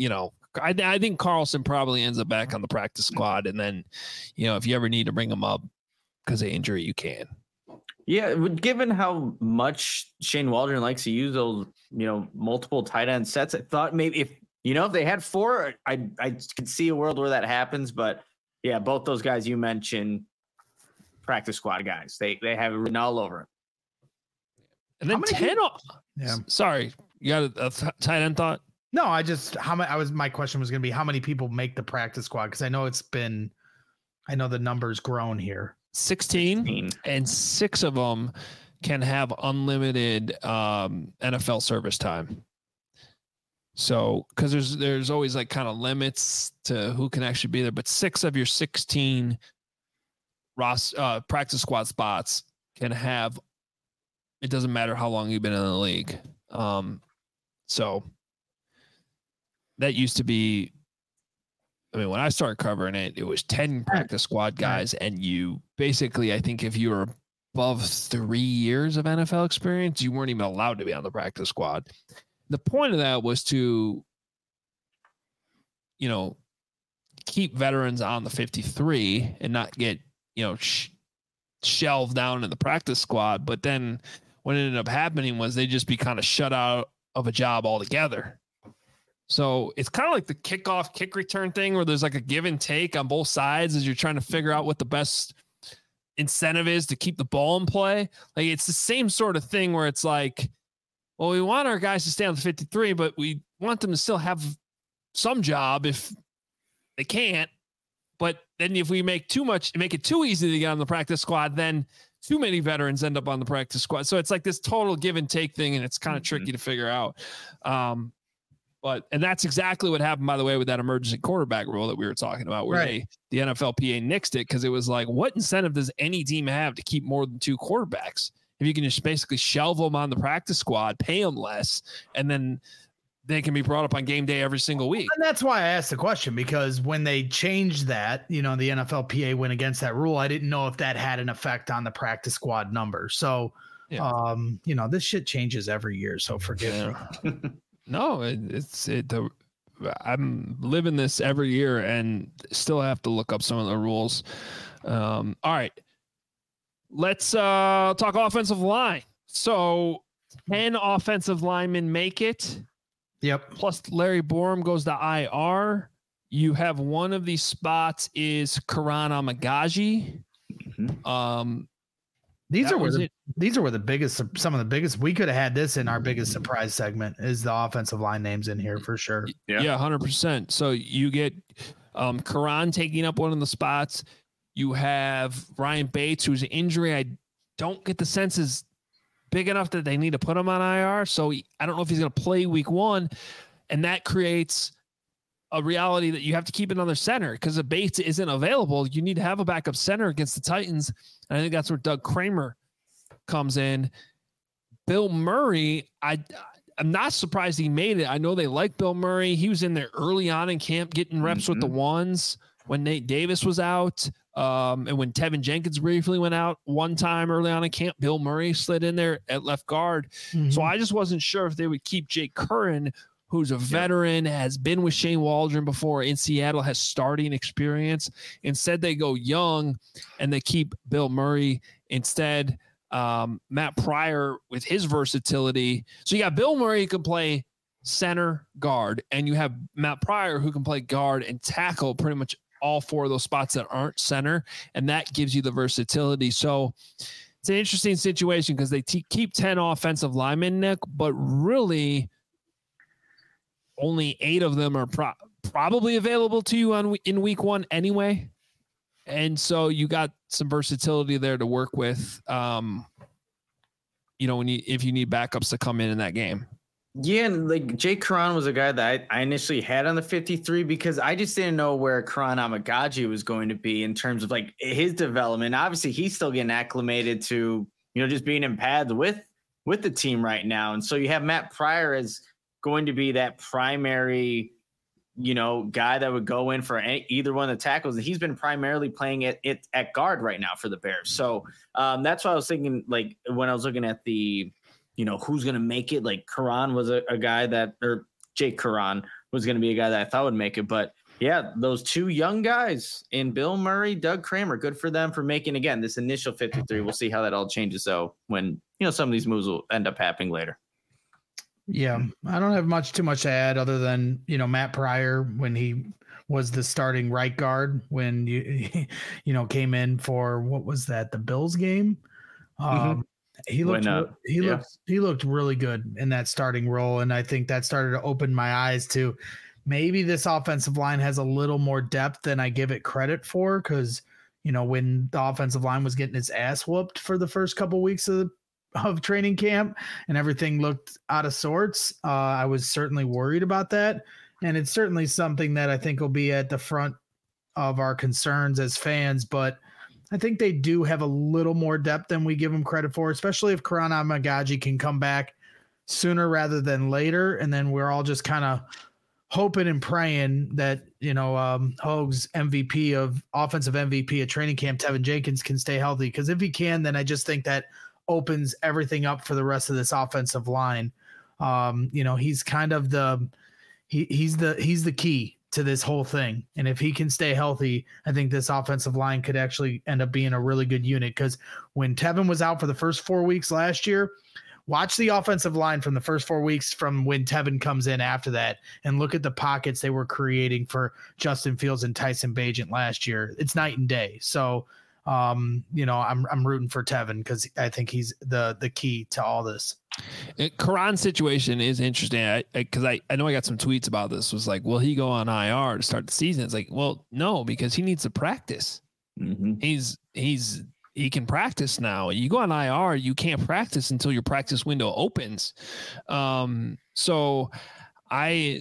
think Carlson probably ends up back on the practice squad. And then, if you ever need to bring him up because of injury, you can. Yeah, given how much Shane Waldron likes to use those, multiple tight end sets, I thought maybe if they had 4, I could see a world where that happens. But yeah, both those guys you mentioned, practice squad guys, they have it written all over. And then 10. Yeah. Sorry, you got a tight end thought? No, my question was going to be how many people make the practice squad, because I know the number's grown here. 16, and 6 of them can have unlimited NFL service time. So, because there's always kind of limits to who can actually be there, but 6 of your 16 practice squad spots can have. It doesn't matter how long you've been in the league. So that used to be. When I started covering it, it was 10 practice squad guys, and you basically, I think if you were above 3 years of NFL experience, you weren't even allowed to be on the practice squad. The point of that was to, keep veterans on the 53 and not get, shelved down in the practice squad. But then what ended up happening was they just be kind of shut out of a job altogether. So it's kind of like the kickoff kick return thing where there's a give and take on both sides as you're trying to figure out what the best incentive is to keep the ball in play. It's the same sort of thing where it's we want our guys to stay on the 53, but we want them to still have some job if they can't. But then if we make it too easy to get on the practice squad, then too many veterans end up on the practice squad. So it's this total give and take thing, and it's kind of tricky to figure out. And that's exactly what happened, by the way, with that emergency quarterback rule that we were talking about, where the NFLPA nixed it because it was what incentive does any team have to keep more than 2 quarterbacks? If you can just basically shelve them on the practice squad, pay them less, and then they can be brought up on game day every single week. And that's why I asked the question, because when they changed that, the NFLPA went against that rule. I didn't know if that had an effect on the practice squad number. So, this shit changes every year. So forgive me. No, I'm living this every year and still have to look up some of the rules. All right, let's talk offensive line. So 10 offensive linemen make it. Yep. Plus Larry Borum goes to IR. You have one of these spots is Karan Amagaji. These are where the biggest, some of the biggest. We could have had this in our biggest surprise segment. Is the offensive line names in here for sure? Yeah, 100%. So you get Karan taking up one of the spots. You have Ryan Bates, whose injury I don't get the sense is big enough that they need to put him on IR. So I don't know if he's going to play week 1, and that creates a reality that you have to keep another center because if Bates isn't available, you need to have a backup center against the Titans. And I think that's where Doug Kramer comes in. Bill Murray, I'm not surprised he made it. I know they like Bill Murray. He was in there early on in camp getting reps with the ones when Nate Davis was out. And when Tevin Jenkins briefly went out one time early on in camp, Bill Murray slid in there at left guard. So I just wasn't sure if they would keep Jake Curran, who's a veteran, has been with Shane Waldron before in Seattle, has starting experience. Instead, they go young and they keep Bill Murray instead. Matt Pryor with his versatility. So you got Bill Murray who can play center, guard, and you have Matt Pryor who can play guard and tackle pretty much all 4 of those spots that aren't center, and that gives you the versatility. So it's an interesting situation because they keep 10 offensive linemen, Nick, but really only 8 of them are probably available to you in week 1 anyway. And so you got some versatility there to work with, if you need backups to come in that game. Yeah, and like Jake Karan was a guy that I initially had on the 53 because I just didn't know where Karan Amagaji was going to be in terms of like his development. Obviously, he's still getting acclimated to, just being in pads with the team right now. And so you have Matt Pryor as going to be that primary, guy that would go in for either one of the tackles. And he's been primarily playing it at guard right now for the Bears. So that's why I was thinking, like, when I was looking at the, who's going to make it, like Karan was a guy that, or Jake Karan was going to be a guy that I thought would make it. But yeah, those 2 young guys in Bill Murray, Doug Kramer, good for them for making, again, this initial 53. We'll see how that all changes though when, some of these moves will end up happening later. Yeah, I don't have too much to add other than, Matt Pryor, when he was the starting right guard, when you came in for, what was that, the Bills game? He looked really good in that starting role. And I think that started to open my eyes to maybe this offensive line has a little more depth than I give it credit for. Cause when the offensive line was getting its ass whooped for the first couple of weeks of training camp and everything looked out of sorts, I was certainly worried about that. And it's certainly something that I think will be at the front of our concerns as fans, but I think they do have a little more depth than we give them credit for, especially if Karan Amagaji can come back sooner rather than later. And then we're all just kind of hoping and praying that, Hogue's MVP of offensive MVP at training camp, Tevin Jenkins, can stay healthy. Because if he can, then I just think that opens everything up for the rest of this offensive line. He's kind of he's the key to this whole thing. And if he can stay healthy, I think this offensive line could actually end up being a really good unit. Because when Tevin was out for the first 4 weeks last year, watch the offensive line from the first 4 weeks from when Tevin comes in after that and look at the pockets they were creating for Justin Fields and Tyson Bagent last year. It's night and day. So, I'm rooting for Tevin because I think he's the key to all this. Karan's situation is interesting because I know I got some tweets about this. Was like, will he go on IR to start the season? It's like, well, no, because he needs to practice. He can practice now. You go on IR, you can't practice until your practice window opens. So I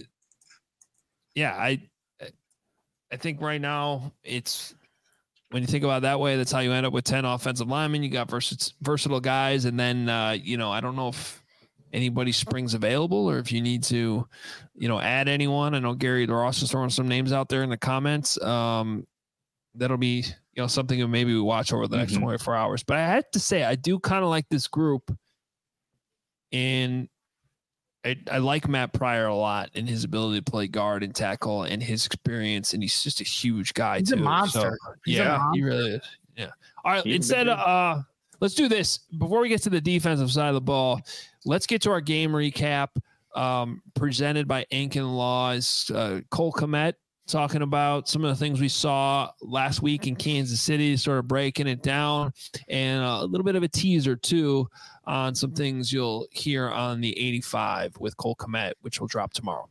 think right now it's, when you think about it that way, that's how you end up with 10 offensive linemen. You got versatile guys. And then, I don't know if anybody springs available or if you need to, add anyone. I know Gary Ross is throwing some names out there in the comments. That'll be, something that maybe we watch over the next 24 hours. But I had to say, I do kind of like this group. And I like Matt Pryor a lot and his ability to play guard and tackle and his experience. And he's just a huge guy. He's a monster. So, he really is. Yeah. All right. Let's do this before we get to the defensive side of the ball. Let's get to our game recap presented by Inc. and Laws. Cole Kmet talking about some of the things we saw last week in Kansas City, sort of breaking it down, and a little bit of a teaser too on some things you'll hear on the 85 with Cole Kmet, which will drop tomorrow.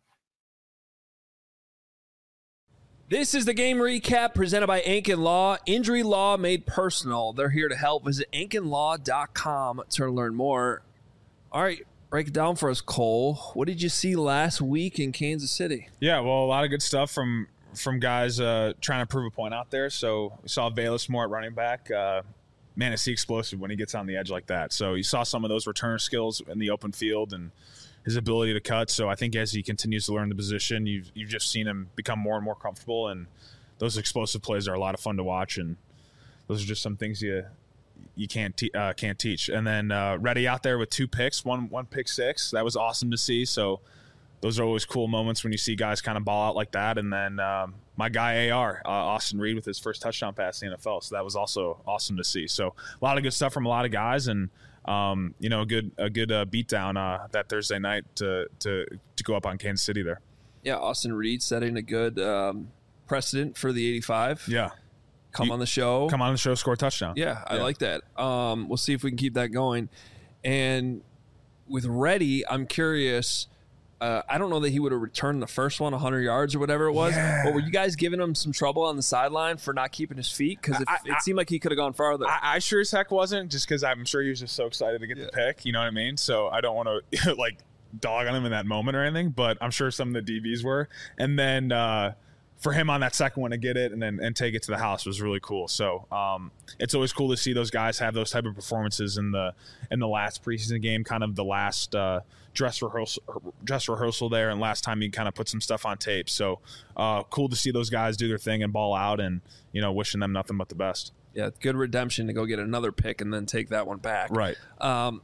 This is the game recap presented by Ankin Law. Injury law made personal. They're here to help. Visit AnkinLaw.com to learn more. All right, break it down for us, Cole. What did you see last week in Kansas City? Yeah, well, a lot of good stuff from guys trying to prove a point out there. So we saw Bayless Moore at running back. Man, is he explosive when he gets on the edge like that. So you saw some of those return skills in the open field and his ability to cut. So I think as he continues to learn the position, you've just seen him become more and more comfortable. And those explosive plays are a lot of fun to watch. And those are just some things you can't teach. And then Reddy out there with 2 picks, one pick six. That was awesome to see. So those are always cool moments when you see guys kind of ball out like that. And then my guy Austin Reed with his first touchdown pass in the NFL. So that was also awesome to see. So a lot of good stuff from a lot of guys, and a good beatdown that Thursday night to go up on Kansas City there. Yeah, Austin Reed setting a good precedent for the 85. Yeah. Come on the show, score a touchdown. Yeah, I like that. We'll see if we can keep that going. And with Reddy, I'm curious. I don't know that he would have returned the first one 100 yards or whatever it was. Yeah. But were you guys giving him some trouble on the sideline for not keeping his feet? Because it seemed like he could have gone farther. I sure as heck wasn't, just because I'm sure he was just so excited to get the pick. You know what I mean? So I don't want to like dog on him in that moment or anything, but I'm sure some of the DBs were. And then for him on that second one to get it and take it to the house was really cool. So it's always cool to see those guys have those type of performances in the last preseason game, kind of the last dress rehearsal there, and last time he kind of put some stuff on tape. So cool to see those guys do their thing and ball out, and wishing them nothing but the best. Yeah, good redemption to go get another pick and then take that one back. Right. How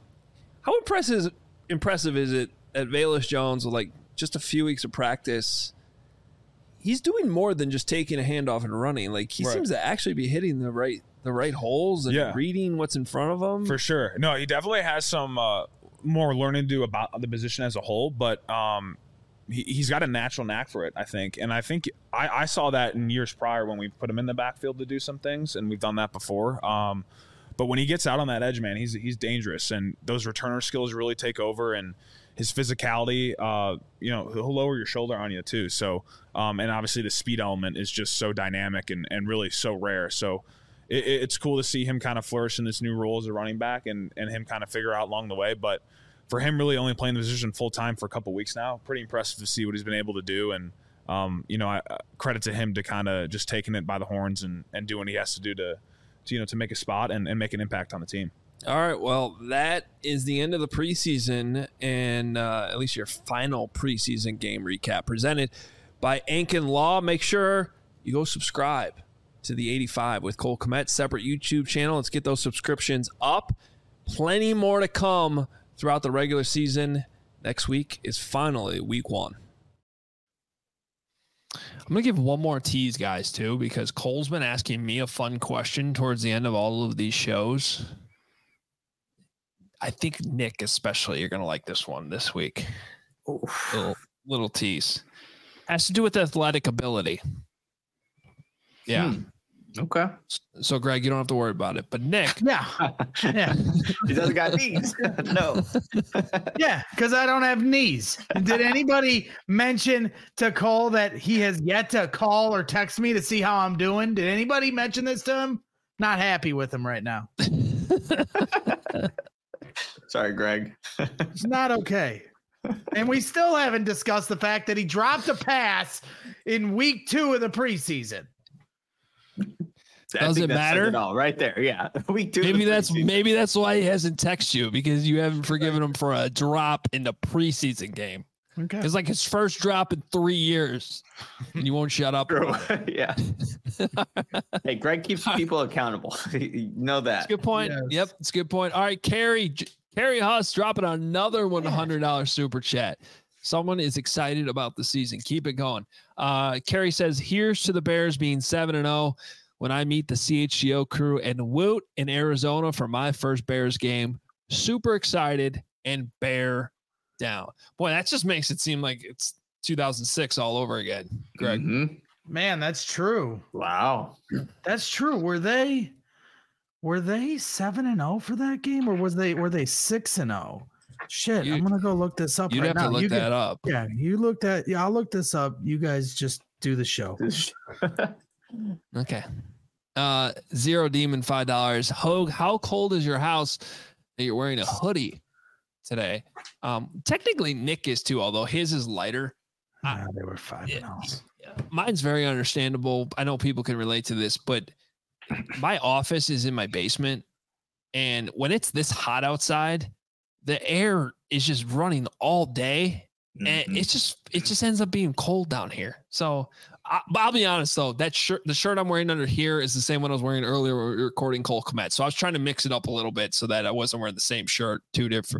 impressive is it at Velus Jones with like just a few weeks of practice? He's doing more than just taking a handoff and running. Like he seems to actually be hitting the right holes and reading what's in front of him. For sure. No, he definitely has some more learning to do about the position as a whole, but he's got a natural knack for it, I think. And I think I saw that in years prior when we put him in the backfield to do some things, and we've done that before. But when he gets out on that edge, man, he's dangerous, and those returner skills really take over, and his physicality, he'll lower your shoulder on you too. So, and obviously the speed element is just so dynamic and really so rare. So it's cool to see him kind of flourish in this new role as a running back and him kind of figure out along the way. But for him really only playing the position full time for a couple of weeks now, pretty impressive to see what he's been able to do. And, I credit to him to kind of just taking it by the horns and doing what he has to do to make a spot and make an impact on the team. All right, well, that is the end of the preseason and at least your final preseason game recap presented by Ankin Law. Make sure you go subscribe to the 85 with Cole Kmet, separate YouTube channel. Let's get those subscriptions up. Plenty more to come throughout the regular season. Next week is finally week 1. I'm going to give one more tease, guys, too, because Cole's been asking me a fun question towards the end of all of these shows. I think Nick, especially, you're going to like this one this week. Little tease. Has to do with athletic ability. Yeah. Okay. So, Greg, you don't have to worry about it. But Nick. Yeah. He doesn't got knees. No. Yeah, because I don't have knees. Did anybody mention to Cole that he has yet to call or text me to see how I'm doing? Did anybody mention this to him? Not happy with him right now. Sorry, Greg. It's not okay. And we still haven't discussed the fact that he dropped a pass in week 2 of the preseason. Does it matter? All right there, yeah. Week 2. Maybe that's why he hasn't texted you, because you haven't forgiven him for a drop in the preseason game. Okay, it's like his first drop in 3 years, and you won't shut up. Yeah. Hey, Greg keeps people accountable. You know that. That's a good point. Yes. Yep, it's a good point. All right, Carrie Huss dropping another $100 super chat. Someone is excited about the season. Keep it going. Carrie says, here's to the Bears being 7-0 when I meet the CHGO crew and Woot in Arizona for my first Bears game. Super excited and bear down. Boy, that just makes it seem like it's 2006 all over again, Greg. Mm-hmm. Man, that's true. Wow. That's true. Were they 7-0 for that game, or were they 6-0? Shit, I'm gonna go look this up You'd right have now. to look that up. Yeah, I'll look this up. You guys just do the show. Okay. Zero Demon, $5. Hogue, how cold is your house that you're wearing a hoodie today? Technically Nick is too, although his is lighter. They were 5-0. Mine's very understandable. I know people can relate to this, but my office is in my basement, and when it's this hot outside, the air is just running all day, and it just ends up being cold down here. So I'll be honest though, the shirt I'm wearing under here is the same one I was wearing earlier when we were recording Cole Kmet. So I was trying to mix it up a little bit so that I wasn't wearing the same shirt 2 days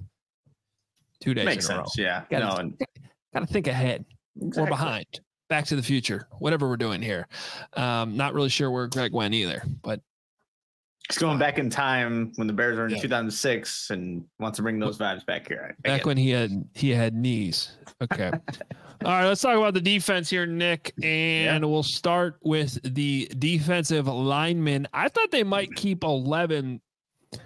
Makes in a row. sense. Yeah. Gotta think ahead or behind. Back to the Future, whatever we're doing here. Not really sure where Greg went either, but He's going back in time when the Bears were in 2006 and wants to bring those vibes back here. Back when he had knees. Okay. All right, let's talk about the defense here, Nick, and we'll start with the defensive linemen. I thought they might keep 11. They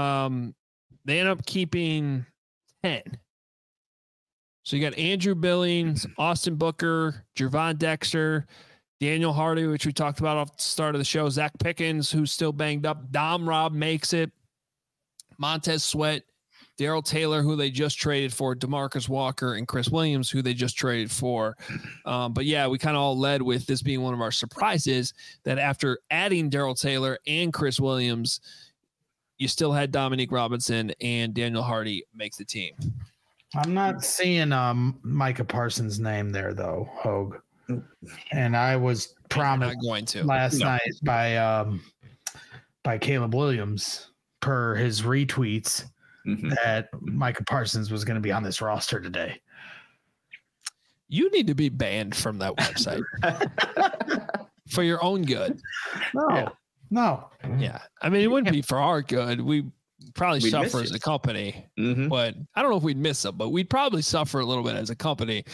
end up keeping 10. So you got Andrew Billings, Austin Booker, Gervon Dexter, Daniel Hardy, which we talked about off the start of the show, Zach Pickens, who's still banged up, Dom Robb makes it, Montez Sweat, Darrell Taylor, who they just traded for, DeMarcus Walker, and Chris Williams, who they just traded for. But yeah, we kind of all led with this being one of our surprises that after adding Darrell Taylor and Chris Williams, you still had Dominique Robinson and Daniel Hardy make the team. I'm not seeing Micah Parsons' name there though, Hogue. And I was promised last night by Caleb Williams per his retweets that Micah Parsons was going to be on this roster today. You need to be banned from that website for your own good. No. Yeah. I mean, it wouldn't be for our good. We'd suffer as a company, but I don't know if we'd miss them, but we'd probably suffer a little bit as a company.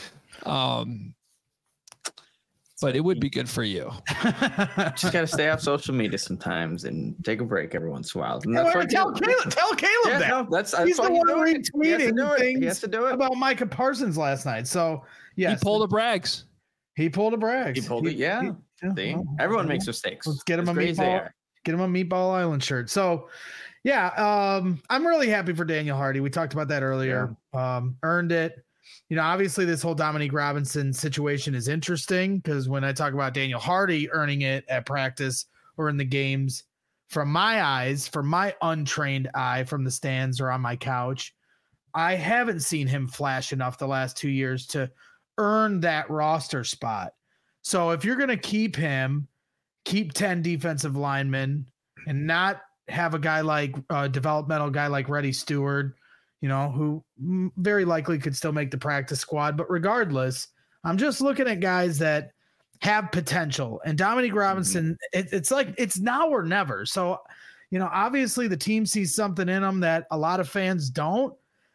But it would be good for you. Just got to stay off social media sometimes and take a break every once in a while. Tell Caleb that. No, he's the one retweeting things he has to do it about Micah Parsons last night. So, yes. He pulled a Braggs. He pulled it, yeah. See? Everyone makes mistakes. Let's get him a Meatball Island shirt. So, yeah, I'm really happy for Daniel Hardy. We talked about that earlier. Yeah. Earned it. You know, obviously this whole Dominique Robinson situation is interesting because when I talk about Daniel Hardy earning it at practice or in the games, from my eyes, from my untrained eye from the stands or on my couch, I haven't seen him flash enough the last 2 years to earn that roster spot. So if you're going to keep him, keep 10 defensive linemen and not have a guy like developmental guy like Reddy Stewart, you know, who very likely could still make the practice squad. But regardless, I'm just looking at guys that have potential. And Dominique Robinson, it's like it's now or never. So, you know, obviously the team sees something in him that a lot of fans don't.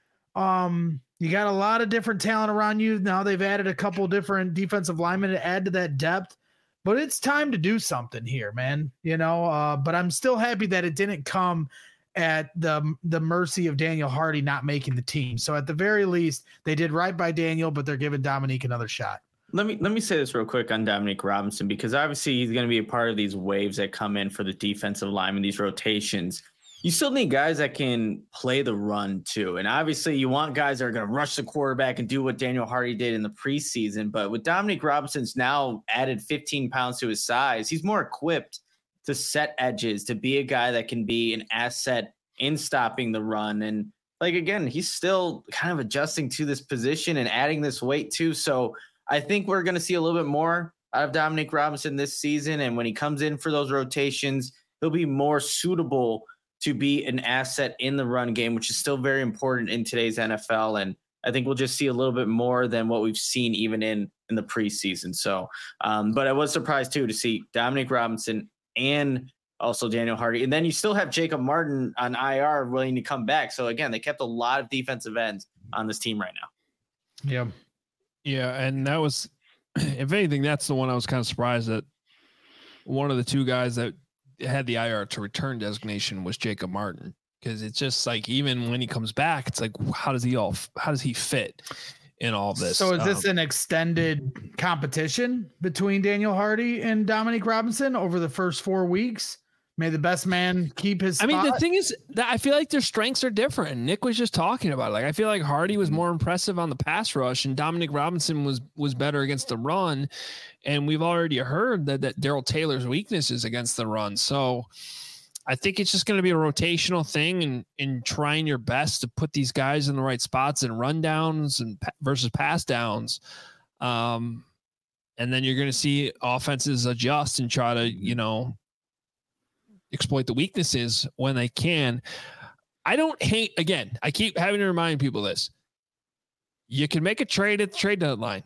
You got a lot of different talent around you. Now they've added a couple different defensive linemen to add to that depth. But it's time to do something here, man. You know, but I'm still happy that it didn't come at the mercy of Daniel Hardy not making the team. So at the very least, they did right by Daniel, but they're giving Dominique another shot. Let me say this real quick on Dominique Robinson, because obviously he's going to be a part of these waves that come in for the defensive linemen, these rotations. You still need guys that can play the run too. And obviously you want guys that are going to rush the quarterback and do what Daniel Hardy did in the preseason. But with Dominique Robinson's now added 15 pounds to his size, he's more equipped to set edges, to be a guy that can be an asset in stopping the run. And like, again, he's still kind of adjusting to this position and adding this weight too. So I think we're going to see a little bit more out of Dominique Robinson this season. And when he comes in for those rotations, he'll be more suitable to be an asset in the run game, which is still very important in today's NFL. And I think we'll just see a little bit more than what we've seen even in the preseason. So, but I was surprised too to see Dominique Robinson and also Daniel Hardy. And then you still have Jacob Martin on IR willing to come back. So again, they kept a lot of defensive ends on this team right now. Yeah. Yeah, and that was, if anything, that's the one I was kind of surprised that one of the two guys that had the IR to return designation was Jacob Martin, because it's just like, even when he comes back, it's like, how does he fit in all this? So is this an extended competition between Daniel Hardy and Dominic Robinson over the first 4 weeks? May the best man keep his spot? I mean, the thing is that I feel like their strengths are different. Nick was just talking about it. Like, I feel like Hardy was more impressive on the pass rush, and Dominic Robinson was better against the run. And we've already heard that Darrell Taylor's weakness is against the run. So I think it's just going to be a rotational thing, and in trying your best to put these guys in the right spots and run downs and versus pass downs. And then you're going to see offenses adjust and try to, exploit the weaknesses when they can. I don't hate, again, I keep having to remind people this. You can make a trade at the trade deadline.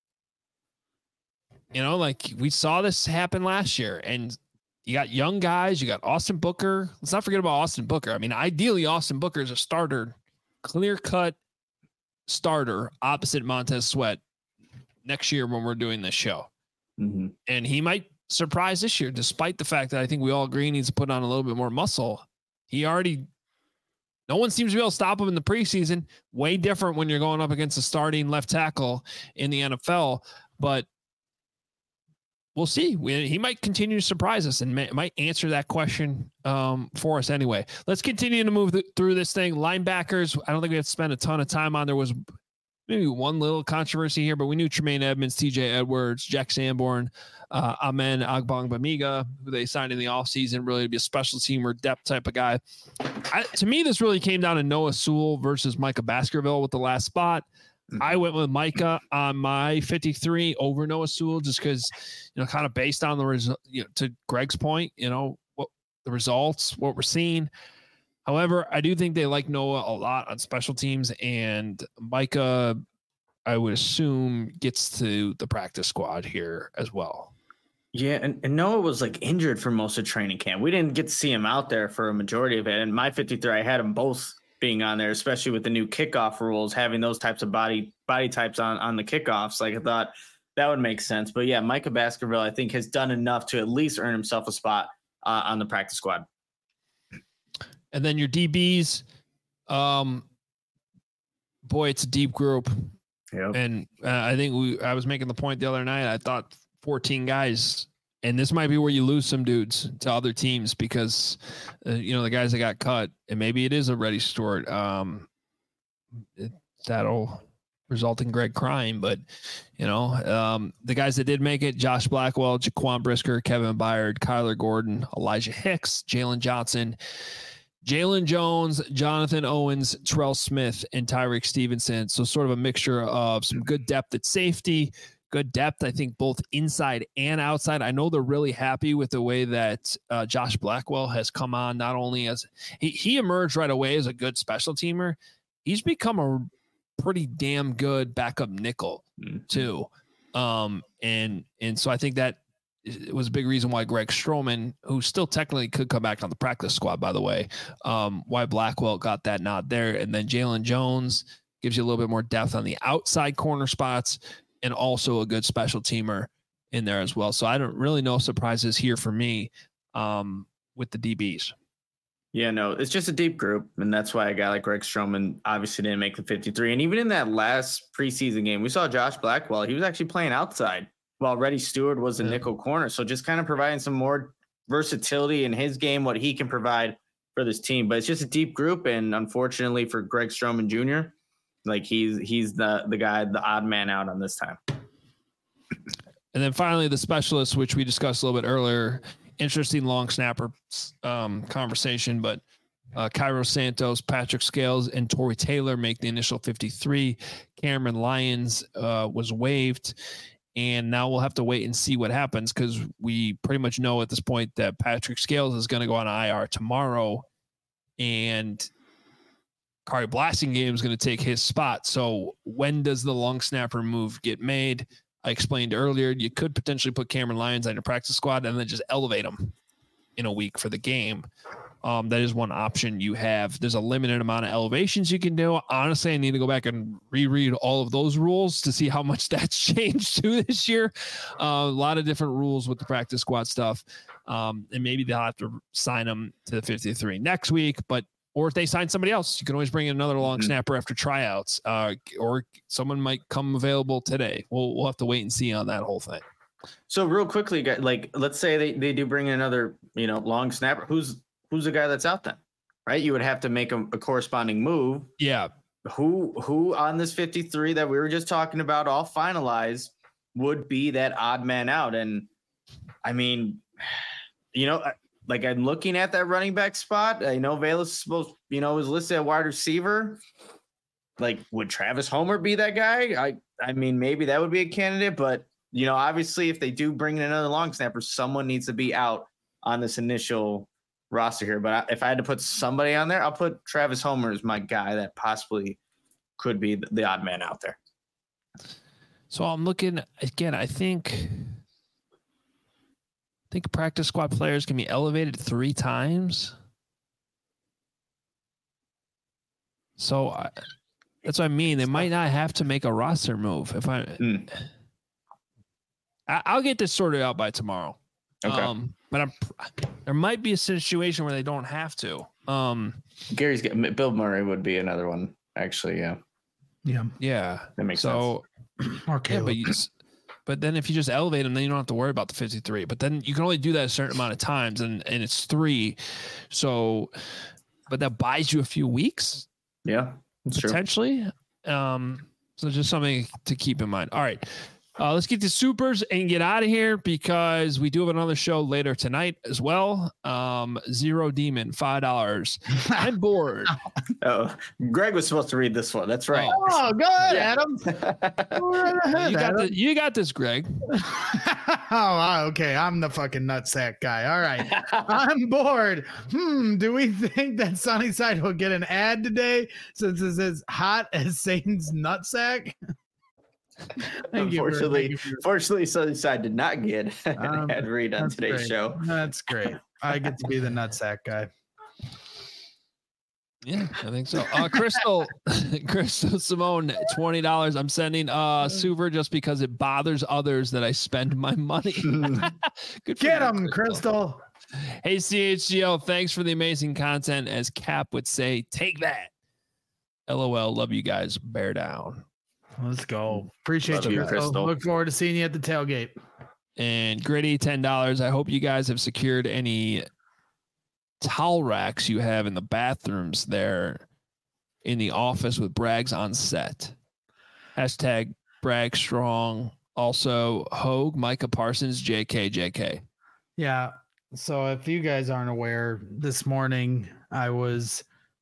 Like we saw this happen last year, and you got young guys, you got Austin Booker. Let's not forget about Austin Booker. I mean, ideally Austin Booker is a starter, clear-cut starter opposite Montez Sweat next year when we're doing this show. Mm-hmm. And he might surprise this year, despite the fact that I think we all agree he needs to put on a little bit more muscle. No one seems to be able to stop him in the preseason. Way different when you're going up against a starting left tackle in the NFL, but we'll see. He might continue to surprise us and might answer that question for us anyway. Let's continue to move through this thing. Linebackers, I don't think we have to spend a ton of time on. There was maybe one little controversy here, but we knew Tremaine Edmonds, TJ Edwards, Jack Sanborn, Amen Agbangbamiga, who they signed in the offseason, really to be a special teamer, depth type of guy. To me, this really came down to Noah Sewell versus Micah Baskerville with the last spot. I went with Micah on my 53 over Noah Sewell just because, kind of based on the result, to Greg's point, what the results, what we're seeing. However, I do think they like Noah a lot on special teams, and Micah, I would assume, gets to the practice squad here as well. Yeah, and Noah was like injured for most of training camp. We didn't get to see him out there for a majority of it. And my 53, I had them both being on there, especially with the new kickoff rules, having those types of body types on the kickoffs. Like, I thought that would make sense. But yeah, Micah Baskerville, I think, has done enough to at least earn himself a spot on the practice squad. And then your DBs, boy, it's a deep group. Yep. And I think I was making the point the other night. I thought 14 guys, and this might be where you lose some dudes to other teams because, the guys that got cut, and maybe it is a Reddy Stewart. That'll result in Greg crying, but the guys that did make it: Josh Blackwell, Jaquan Brisker, Kevin Byard, Kyler Gordon, Elijah Hicks, Jalen Johnson, Jalen Jones, Jonathan Owens, Terrell Smith, and Tyreek Stevenson. So sort of a mixture of some good depth at safety, good depth, I think, both inside and outside. I know they're really happy with the way that Josh Blackwell has come on, not only as he emerged right away as a good special teamer, he's become a pretty damn good backup nickel too. And so I think that it was a big reason why Greg Stroman, who still technically could come back on the practice squad, by the way, why Blackwell got that nod there. And then Jalen Jones gives you a little bit more depth on the outside corner spots and also a good special teamer in there as well. So I don't really know surprises here for me with the DBs. Yeah, no, it's just a deep group, and that's why a guy like Greg Stroman obviously didn't make the 53. And even in that last preseason game, we saw Josh Blackwell. He was actually playing outside while Reddy Stewart was the nickel corner. So just kind of providing some more versatility in his game, what he can provide for this team. But it's just a deep group, and unfortunately for Greg Stroman Jr., like he's the guy, the odd man out on this time. And then finally, the specialists, which we discussed a little bit earlier. Interesting long snapper conversation, but Cairo Santos, Patrick Scales, and Torrey Taylor make the initial 53. Cameron Lyons was waived, and now we'll have to wait and see what happens because we pretty much know at this point that Patrick Scales is going to go on IR tomorrow, and Kari Blasingame is going to take his spot. So when does the long snapper move get made? I explained earlier, you could potentially put Cameron Lyons on your practice squad and then just elevate him in a week for the game. That is one option you have. There's a limited amount of elevations you can do. Honestly, I need to go back and reread all of those rules to see how much that's changed to this year. A lot of different rules with the practice squad stuff. And maybe they'll have to sign them to the 53 next week, or if they sign somebody else, you can always bring in another long snapper after tryouts, or someone might come available today. We'll have to wait and see on that whole thing. So real quickly, like, let's say they do bring in another, long snapper. Who's the guy that's out then, right? You would have to make a corresponding move. Yeah. Who on this 53 that we were just talking about, all finalized, would be that odd man out? And I mean, like, I'm looking at that running back spot. I know Velus is supposed, was listed at wide receiver. Like, would Travis Homer be that guy? I mean, maybe that would be a candidate, but obviously if they do bring in another long snapper, someone needs to be out on this initial roster here. But if I had to put somebody on there, I'll put Travis Homer as my guy that possibly could be the odd man out there. So I'm looking again. I think practice squad players can be elevated 3 times. So that's what I mean. They might not have to make a roster move. If I'll get this sorted out by tomorrow. Okay. But there might be a situation where they don't have to. Bill Murray would be another one, actually. Yeah. That makes sense. Okay. Yeah, but then if you just elevate them, then you don't have to worry about the 53. But then you can only do that a certain amount of times, and it's 3. So, but that buys you a few weeks. Yeah, that's potentially. True. So just something to keep in mind. All right. Let's get to supers and get out of here because we do have another show later tonight as well. Zero Demon, $5. I'm bored. Oh, Greg was supposed to read this one. That's right. Oh, go ahead, Adam. Go right ahead, you got this, Greg. Okay. I'm the fucking nutsack guy. All right. I'm bored. Do we think that Sunnyside will get an ad today since it's as hot as Satan's nutsack? Fortunately, Sunnyside did not get an ad read on today's show. That's great. I get to be the nutsack guy. Yeah, I think so. Crystal Simone, $20. I'm sending Suver just because it bothers others that I spend my money. Good. Get them, Crystal. Hey, CHGO, thanks for the amazing content. As Cap would say, take that. LOL. Love you guys. Bear down. Let's go. Appreciate you, Crystal. Look forward to seeing you at the tailgate. And Gritty, $10. I hope you guys have secured any towel racks you have in the bathrooms there in the office with Brags on set. Hashtag Brag Strong. Also, Hogue, Micah Parsons, JK. Yeah. So if you guys aren't aware, this morning I was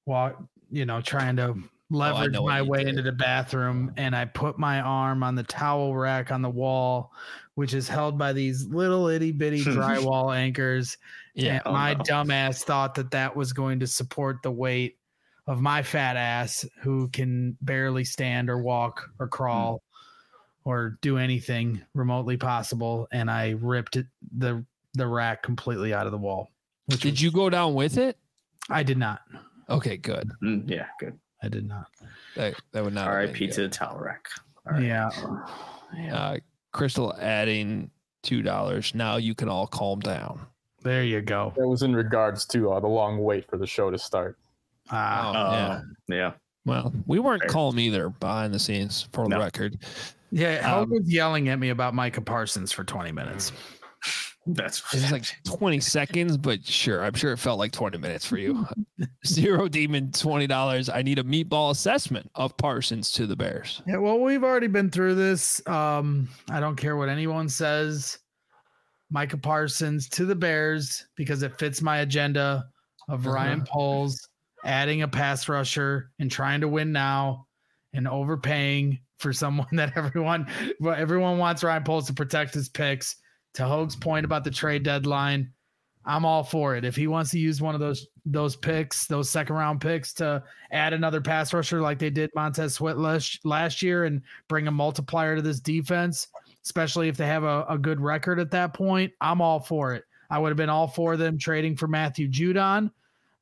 trying to leverage my way into the bathroom, and I put my arm on the towel rack on the wall, which is held by these little itty bitty drywall anchors. Yeah, and my dumbass thought that was going to support the weight of my fat ass, who can barely stand or walk or crawl or do anything remotely possible, and I ripped the rack completely out of the wall. Did you go down with it? I did not. Okay, good. Yeah, good. I did not. That would not. R.I.P. to the towel rack. Right. Yeah. Crystal adding $2. Now you can all calm down. There you go. That was in regards to the long wait for the show to start. Yeah. Well, we weren't calm either behind the scenes, for the record. Yeah, Hope was yelling at me about Micah Parsons for 20 minutes. It's like 20 seconds, but sure, I'm sure it felt like 20 minutes for you. Zero Demon, $20. I need a meatball assessment of Parsons to the Bears. Yeah, well, we've already been through this. I don't care what anyone says. Micah Parsons to the Bears because it fits my agenda of Ryan Poles adding a pass rusher and trying to win now and overpaying for someone that everyone wants Ryan Poles to protect his picks. To Hogue's point about the trade deadline, I'm all for it. If he wants to use one of those picks, those second round picks, to add another pass rusher like they did Montez Sweat last year and bring a multiplier to this defense, especially if they have a good record at that point, I'm all for it. I would have been all for them trading for Matthew Judon.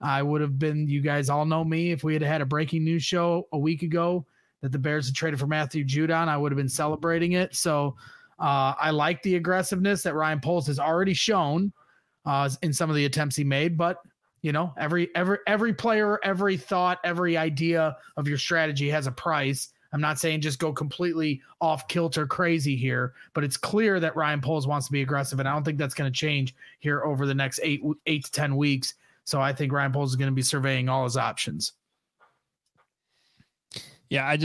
I would have been, you guys all know me, if we had had a breaking news show a week ago that the Bears had traded for Matthew Judon, I would have been celebrating it. So I like the aggressiveness that Ryan Poles has already shown in some of the attempts he made, but you know, every player, every thought, every idea of your strategy has a price. I'm not saying just go completely off kilter crazy here, but it's clear that Ryan Poles wants to be aggressive, and I don't think that's going to change here over the next 8 to 10 weeks. So I think Ryan Poles is going to be surveying all his options. Yeah, I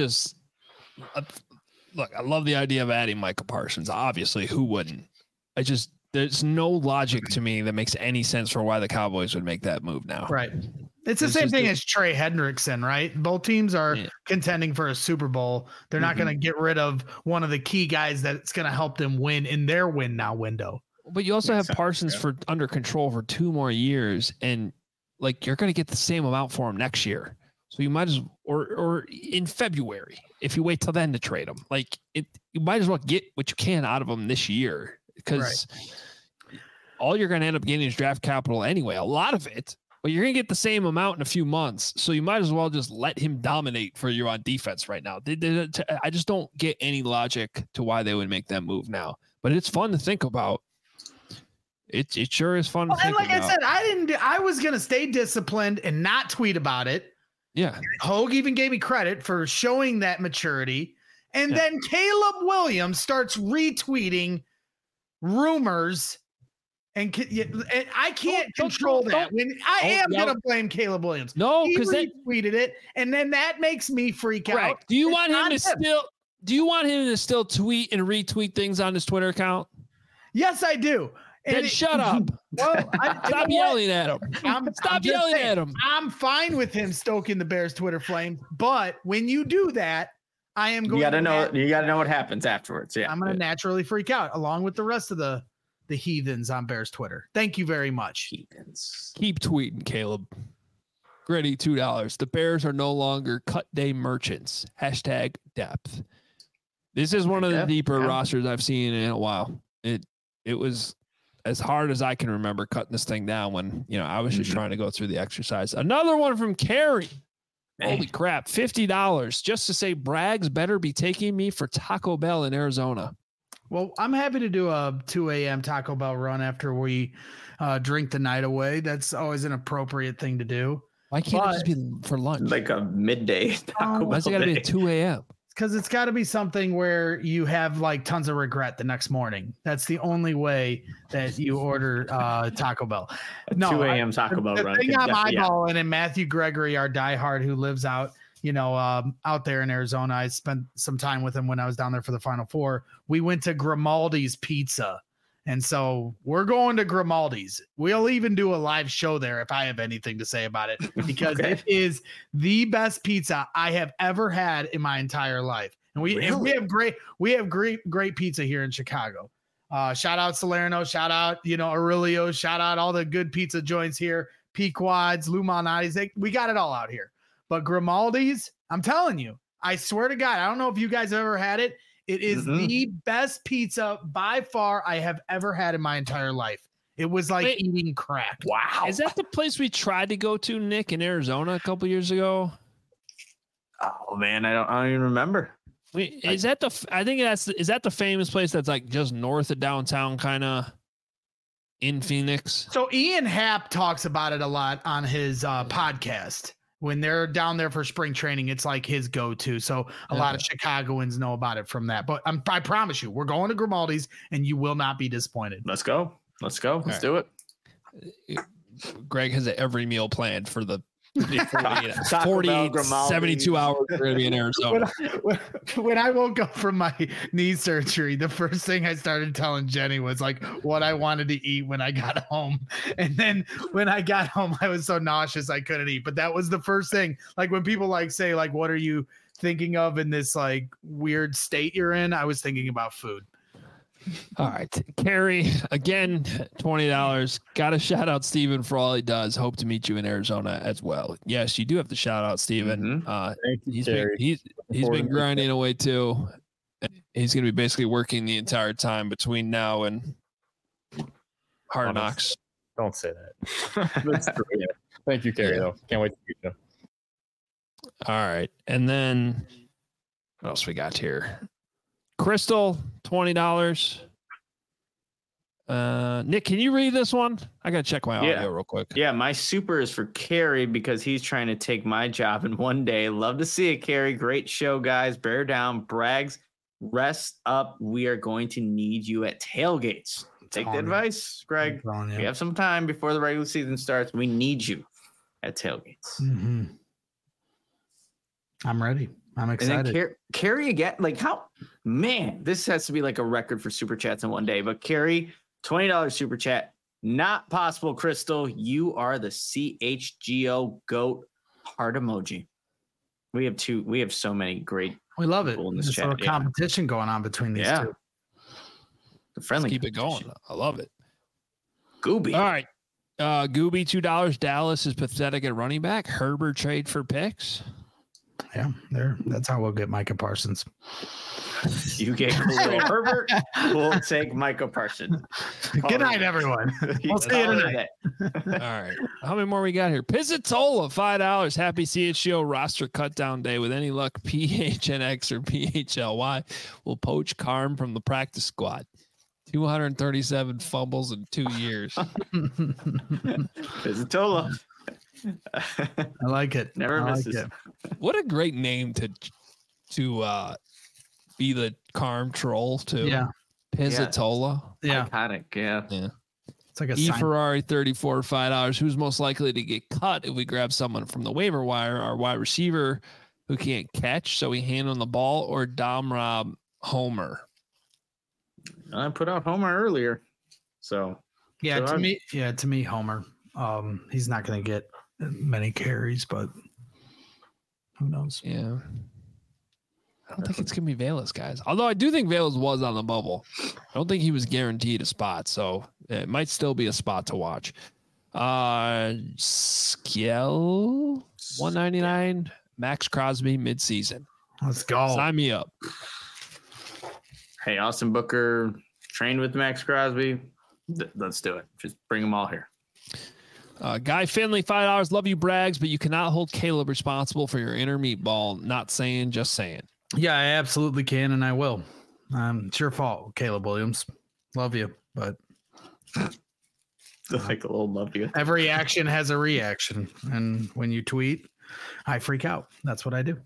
love the idea of adding Micah Parsons. Obviously, who wouldn't? There's no logic to me that makes any sense for why the Cowboys would make that move now. Right. It's the same thing as Trey Hendrickson, right? Both teams are contending for a Super Bowl. They're not going to get rid of one of the key guys that's going to help them win in their win now window. But you also have Parsons for under control for 2 more years, and like you're going to get the same amount for him next year. So you might as or in February if you wait till then to trade him. Like you might as well get what you can out of him this year, because all you're going to end up getting is draft capital anyway. A lot of it, but you're going to get the same amount in a few months. So you might as well just let him dominate for you on defense right now. I just don't get any logic to why they would make that move now. But it's fun to think about. It sure is fun to think about. And like I said, I was going to stay disciplined and not tweet about it. Yeah. Hogue even gave me credit for showing that maturity. And then Caleb Williams starts retweeting rumors. And I can't control that. When I am going to blame Caleb Williams. No, because he retweeted it, and then that makes me freak out. Do you want him to still tweet and retweet things on his Twitter account? Yes, I do. Then shut up. Well, stop yelling at him. Stop yelling at him. I'm fine with him stoking the Bears Twitter flames, but when you do that, I am going. You got to know what happens afterwards. Yeah, I'm going to naturally freak out along with the rest of the heathens on Bears Twitter. Thank you very much. Heathens. Keep tweeting, Caleb. Gritty $2. The Bears are no longer cut day merchants. #depth. This is one of the deeper rosters I've seen in a while. It was as hard as I can remember cutting this thing down when, I was just trying to go through the exercise. Another one from Carrie. Holy crap. $50 just to say Braggs better be taking me for Taco Bell in Arizona. Well, I'm happy to do a 2 a.m. Taco Bell run after we drink the night away. That's always an appropriate thing to do. Why can't it just be for lunch? Like a midday Taco Bell. Why's it got to be at 2 a.m.? Because it's got to be something where you have like tons of regret the next morning. That's the only way that you order Taco Bell. No, 2 a.m. Taco Bell run. The thing I'm eyeballing, and Matthew Gregory, our diehard who lives out there in Arizona. I spent some time with him when I was down there for the Final Four. We went to Grimaldi's Pizza. And so we're going to Grimaldi's. We'll even do a live show there if I have anything to say about it, because it is the best pizza I have ever had in my entire life. And we have great pizza here in Chicago. Shout out Salerno, shout out, Aurelio, shout out all the good pizza joints here. Pequod's, Lou Malnati's, we got it all out here. But Grimaldi's, I'm telling you, I swear to God, I don't know if you guys have ever had it. It is the best pizza by far I have ever had in my entire life. It was like eating crack. Wow. Is that the place we tried to go to, Nick, in Arizona a couple years ago? Oh man, I don't even remember. Is that the famous place that's like just north of downtown, kind of in Phoenix? So Ian Happ talks about it a lot on his podcast. When they're down there for spring training, it's like his go-to. So a lot of Chicagoans know about it from that. But I promise you, we're going to Grimaldi's, and you will not be disappointed. Let's go. Let's do it. Greg has every meal planned for the 48, 72 hours we're going to be in Arizona. When I woke up from my knee surgery, the first thing I started telling Jenny was like what I wanted to eat when I got home. And then when I got home, I was so nauseous I couldn't eat. But that was the first thing. Like when people say, what are you thinking of in this like weird state you're in? I was thinking about food. All right. Carrie, again, $20. Got to shout out Steven for all he does. Hope to meet you in Arizona as well. Yes, you do have to shout out Steven. He's been grinding away too. He's going to be basically working the entire time between now and Hard Knocks. Don't say that. That's true. Yeah. Thank you, Carrie. Though can't wait to meet you. All right, and then what else we got here? Crystal, $20. Nick, can you read this one? I gotta check my audio real quick. Yeah, my super is for Carrie because he's trying to take my job in one day. Love to see it, Carrie. Great show, guys. Bear down, Brags. Rest up. We are going to need you at tailgates. Take the advice, Greg. We have some time before the regular season starts. We need you at tailgates. Mm-hmm. I'm ready. I'm excited. And then Carrie again, like how, man, this has to be like a record for super chats in one day. But Carrie, $20 super chat. Not possible, Crystal. You are the CHGO GOAT heart emoji. We have so many great. We love it. In this There's a little competition going on between these two. The friendly. Let's keep it going. I love it. Gooby. All right. Gooby, $2. Dallas is pathetic at running back. Herbert trade for picks. Yeah, that's how we'll get Micah Parsons. You get Khalil Herbert. We'll take Micah Parsons. Good night, everyone. We'll see you tonight. All right. How many more we got here? Pizzatola, $5. Happy CHGO roster cut down day. With any luck, PHNX or PHLY will poach Carm from the practice squad. 237 fumbles in 2 years. Pizzatola. I like it. Never misses. Like it. What a great name to be the Carm troll too. Yeah. Pizzatola. Yeah. Iconic. Yeah. It's like a Ferrari 34, $5. Who's most likely to get cut if we grab someone from the waiver wire? Our wide receiver who can't catch, so we hand on the ball, or Dom Rob Homer. I put out Homer earlier. So to me, Homer. He's not gonna get many carries, but who knows? Yeah. I don't think it's going to be Velus, guys. Although I do think Velus was on the bubble. I don't think he was guaranteed a spot, so it might still be a spot to watch. Skill, $199. Max Crosby midseason. Let's go. Sign me up. Hey, Austin Booker trained with Max Crosby. Let's do it. Just bring them all here. Guy Finley, $5. Love you, Brags, but you cannot hold Caleb responsible for your inner meatball. Not saying, just saying. Yeah, I absolutely can, and I will. It's your fault, Caleb Williams. Love you, but like a little love you. Every action has a reaction, and when you tweet, I freak out. That's what I do.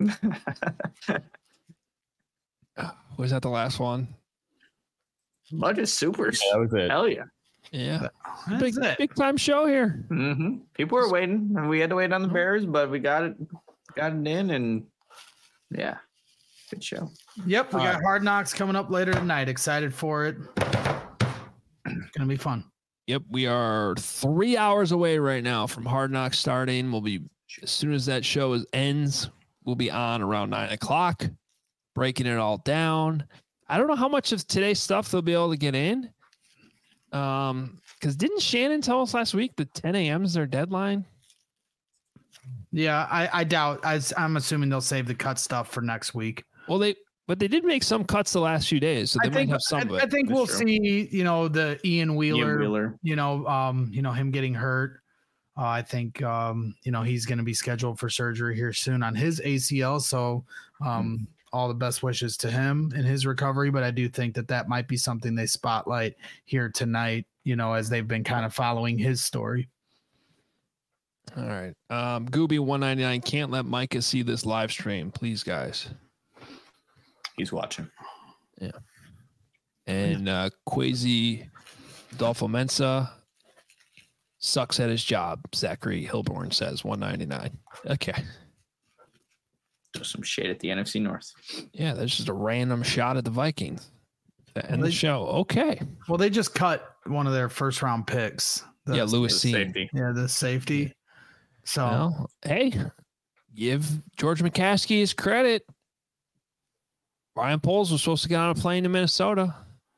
Was that the last one? Bunch of supers. Yeah, that was it. Hell yeah. Yeah. That's Big time show here. Mm-hmm. People were waiting, and we had to wait on the Bears, but we got it in, and yeah, good show. Yep, we got Hard Knocks coming up later tonight. Excited for it. It's gonna be fun. Yep, we are 3 hours away right now from Hard Knocks starting. We'll be, as soon as that show ends, we'll be on around 9:00, breaking it all down. I don't know how much of today's stuff they'll be able to get in. Because didn't Shannon tell us last week that 10 a.m. is their deadline? Yeah, I doubt. I'm assuming they'll save the cut stuff for next week. Well, they did make some cuts the last few days, so they might have some of it. I think we'll see. The Ian Wheeler. Him getting hurt. I think he's going to be scheduled for surgery here soon on his ACL. So all the best wishes to him in his recovery. But I do think that might be something they spotlight here tonight, as they've been kind of following his story. All right. Gooby 199, can't let Micah see this live stream. Please, guys. He's watching. Yeah. And Quasi Adolfo Mensa sucks at his job, Zachary Hilborn says, 199. Okay. Just some shade at the NFC North. Yeah, that's just a random shot at the Vikings. And the show. Okay. Well, they just cut one of their first round picks. Lewis Cine. Yeah, the safety. So, well, hey, give George McCaskey his credit. Ryan Poles was supposed to get on a plane to Minnesota.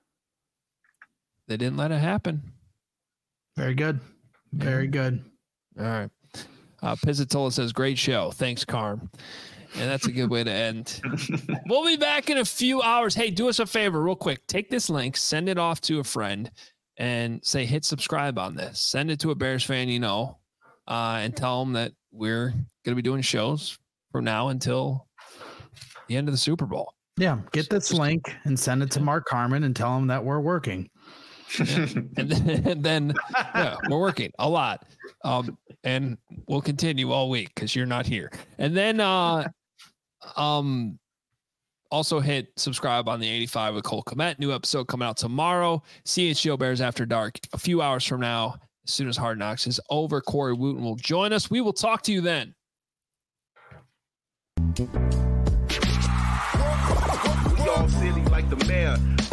They didn't let it happen. Very good. Very good. All right. Pizzatola says, great show. Thanks, Carm. And that's a good way to end. We'll be back in a few hours. Hey, do us a favor real quick. Take this link, send it off to a friend. and say, hit subscribe on this. Send it to a Bears fan you know, and tell them that we're going to be doing shows from now until the end of the Super Bowl. Yeah, get this link and send it to Mark Carman and tell him that we're working. Yeah. and then yeah, we're working a lot. And we'll continue all week because you're not here. And then also hit subscribe on the 85 with Cole Kmet. New episode coming out tomorrow. CHGO Bears After Dark a few hours from now. As soon as Hard Knocks is over, Corey Wooten will join us. We will talk to you then. Y'all silly like the mayor.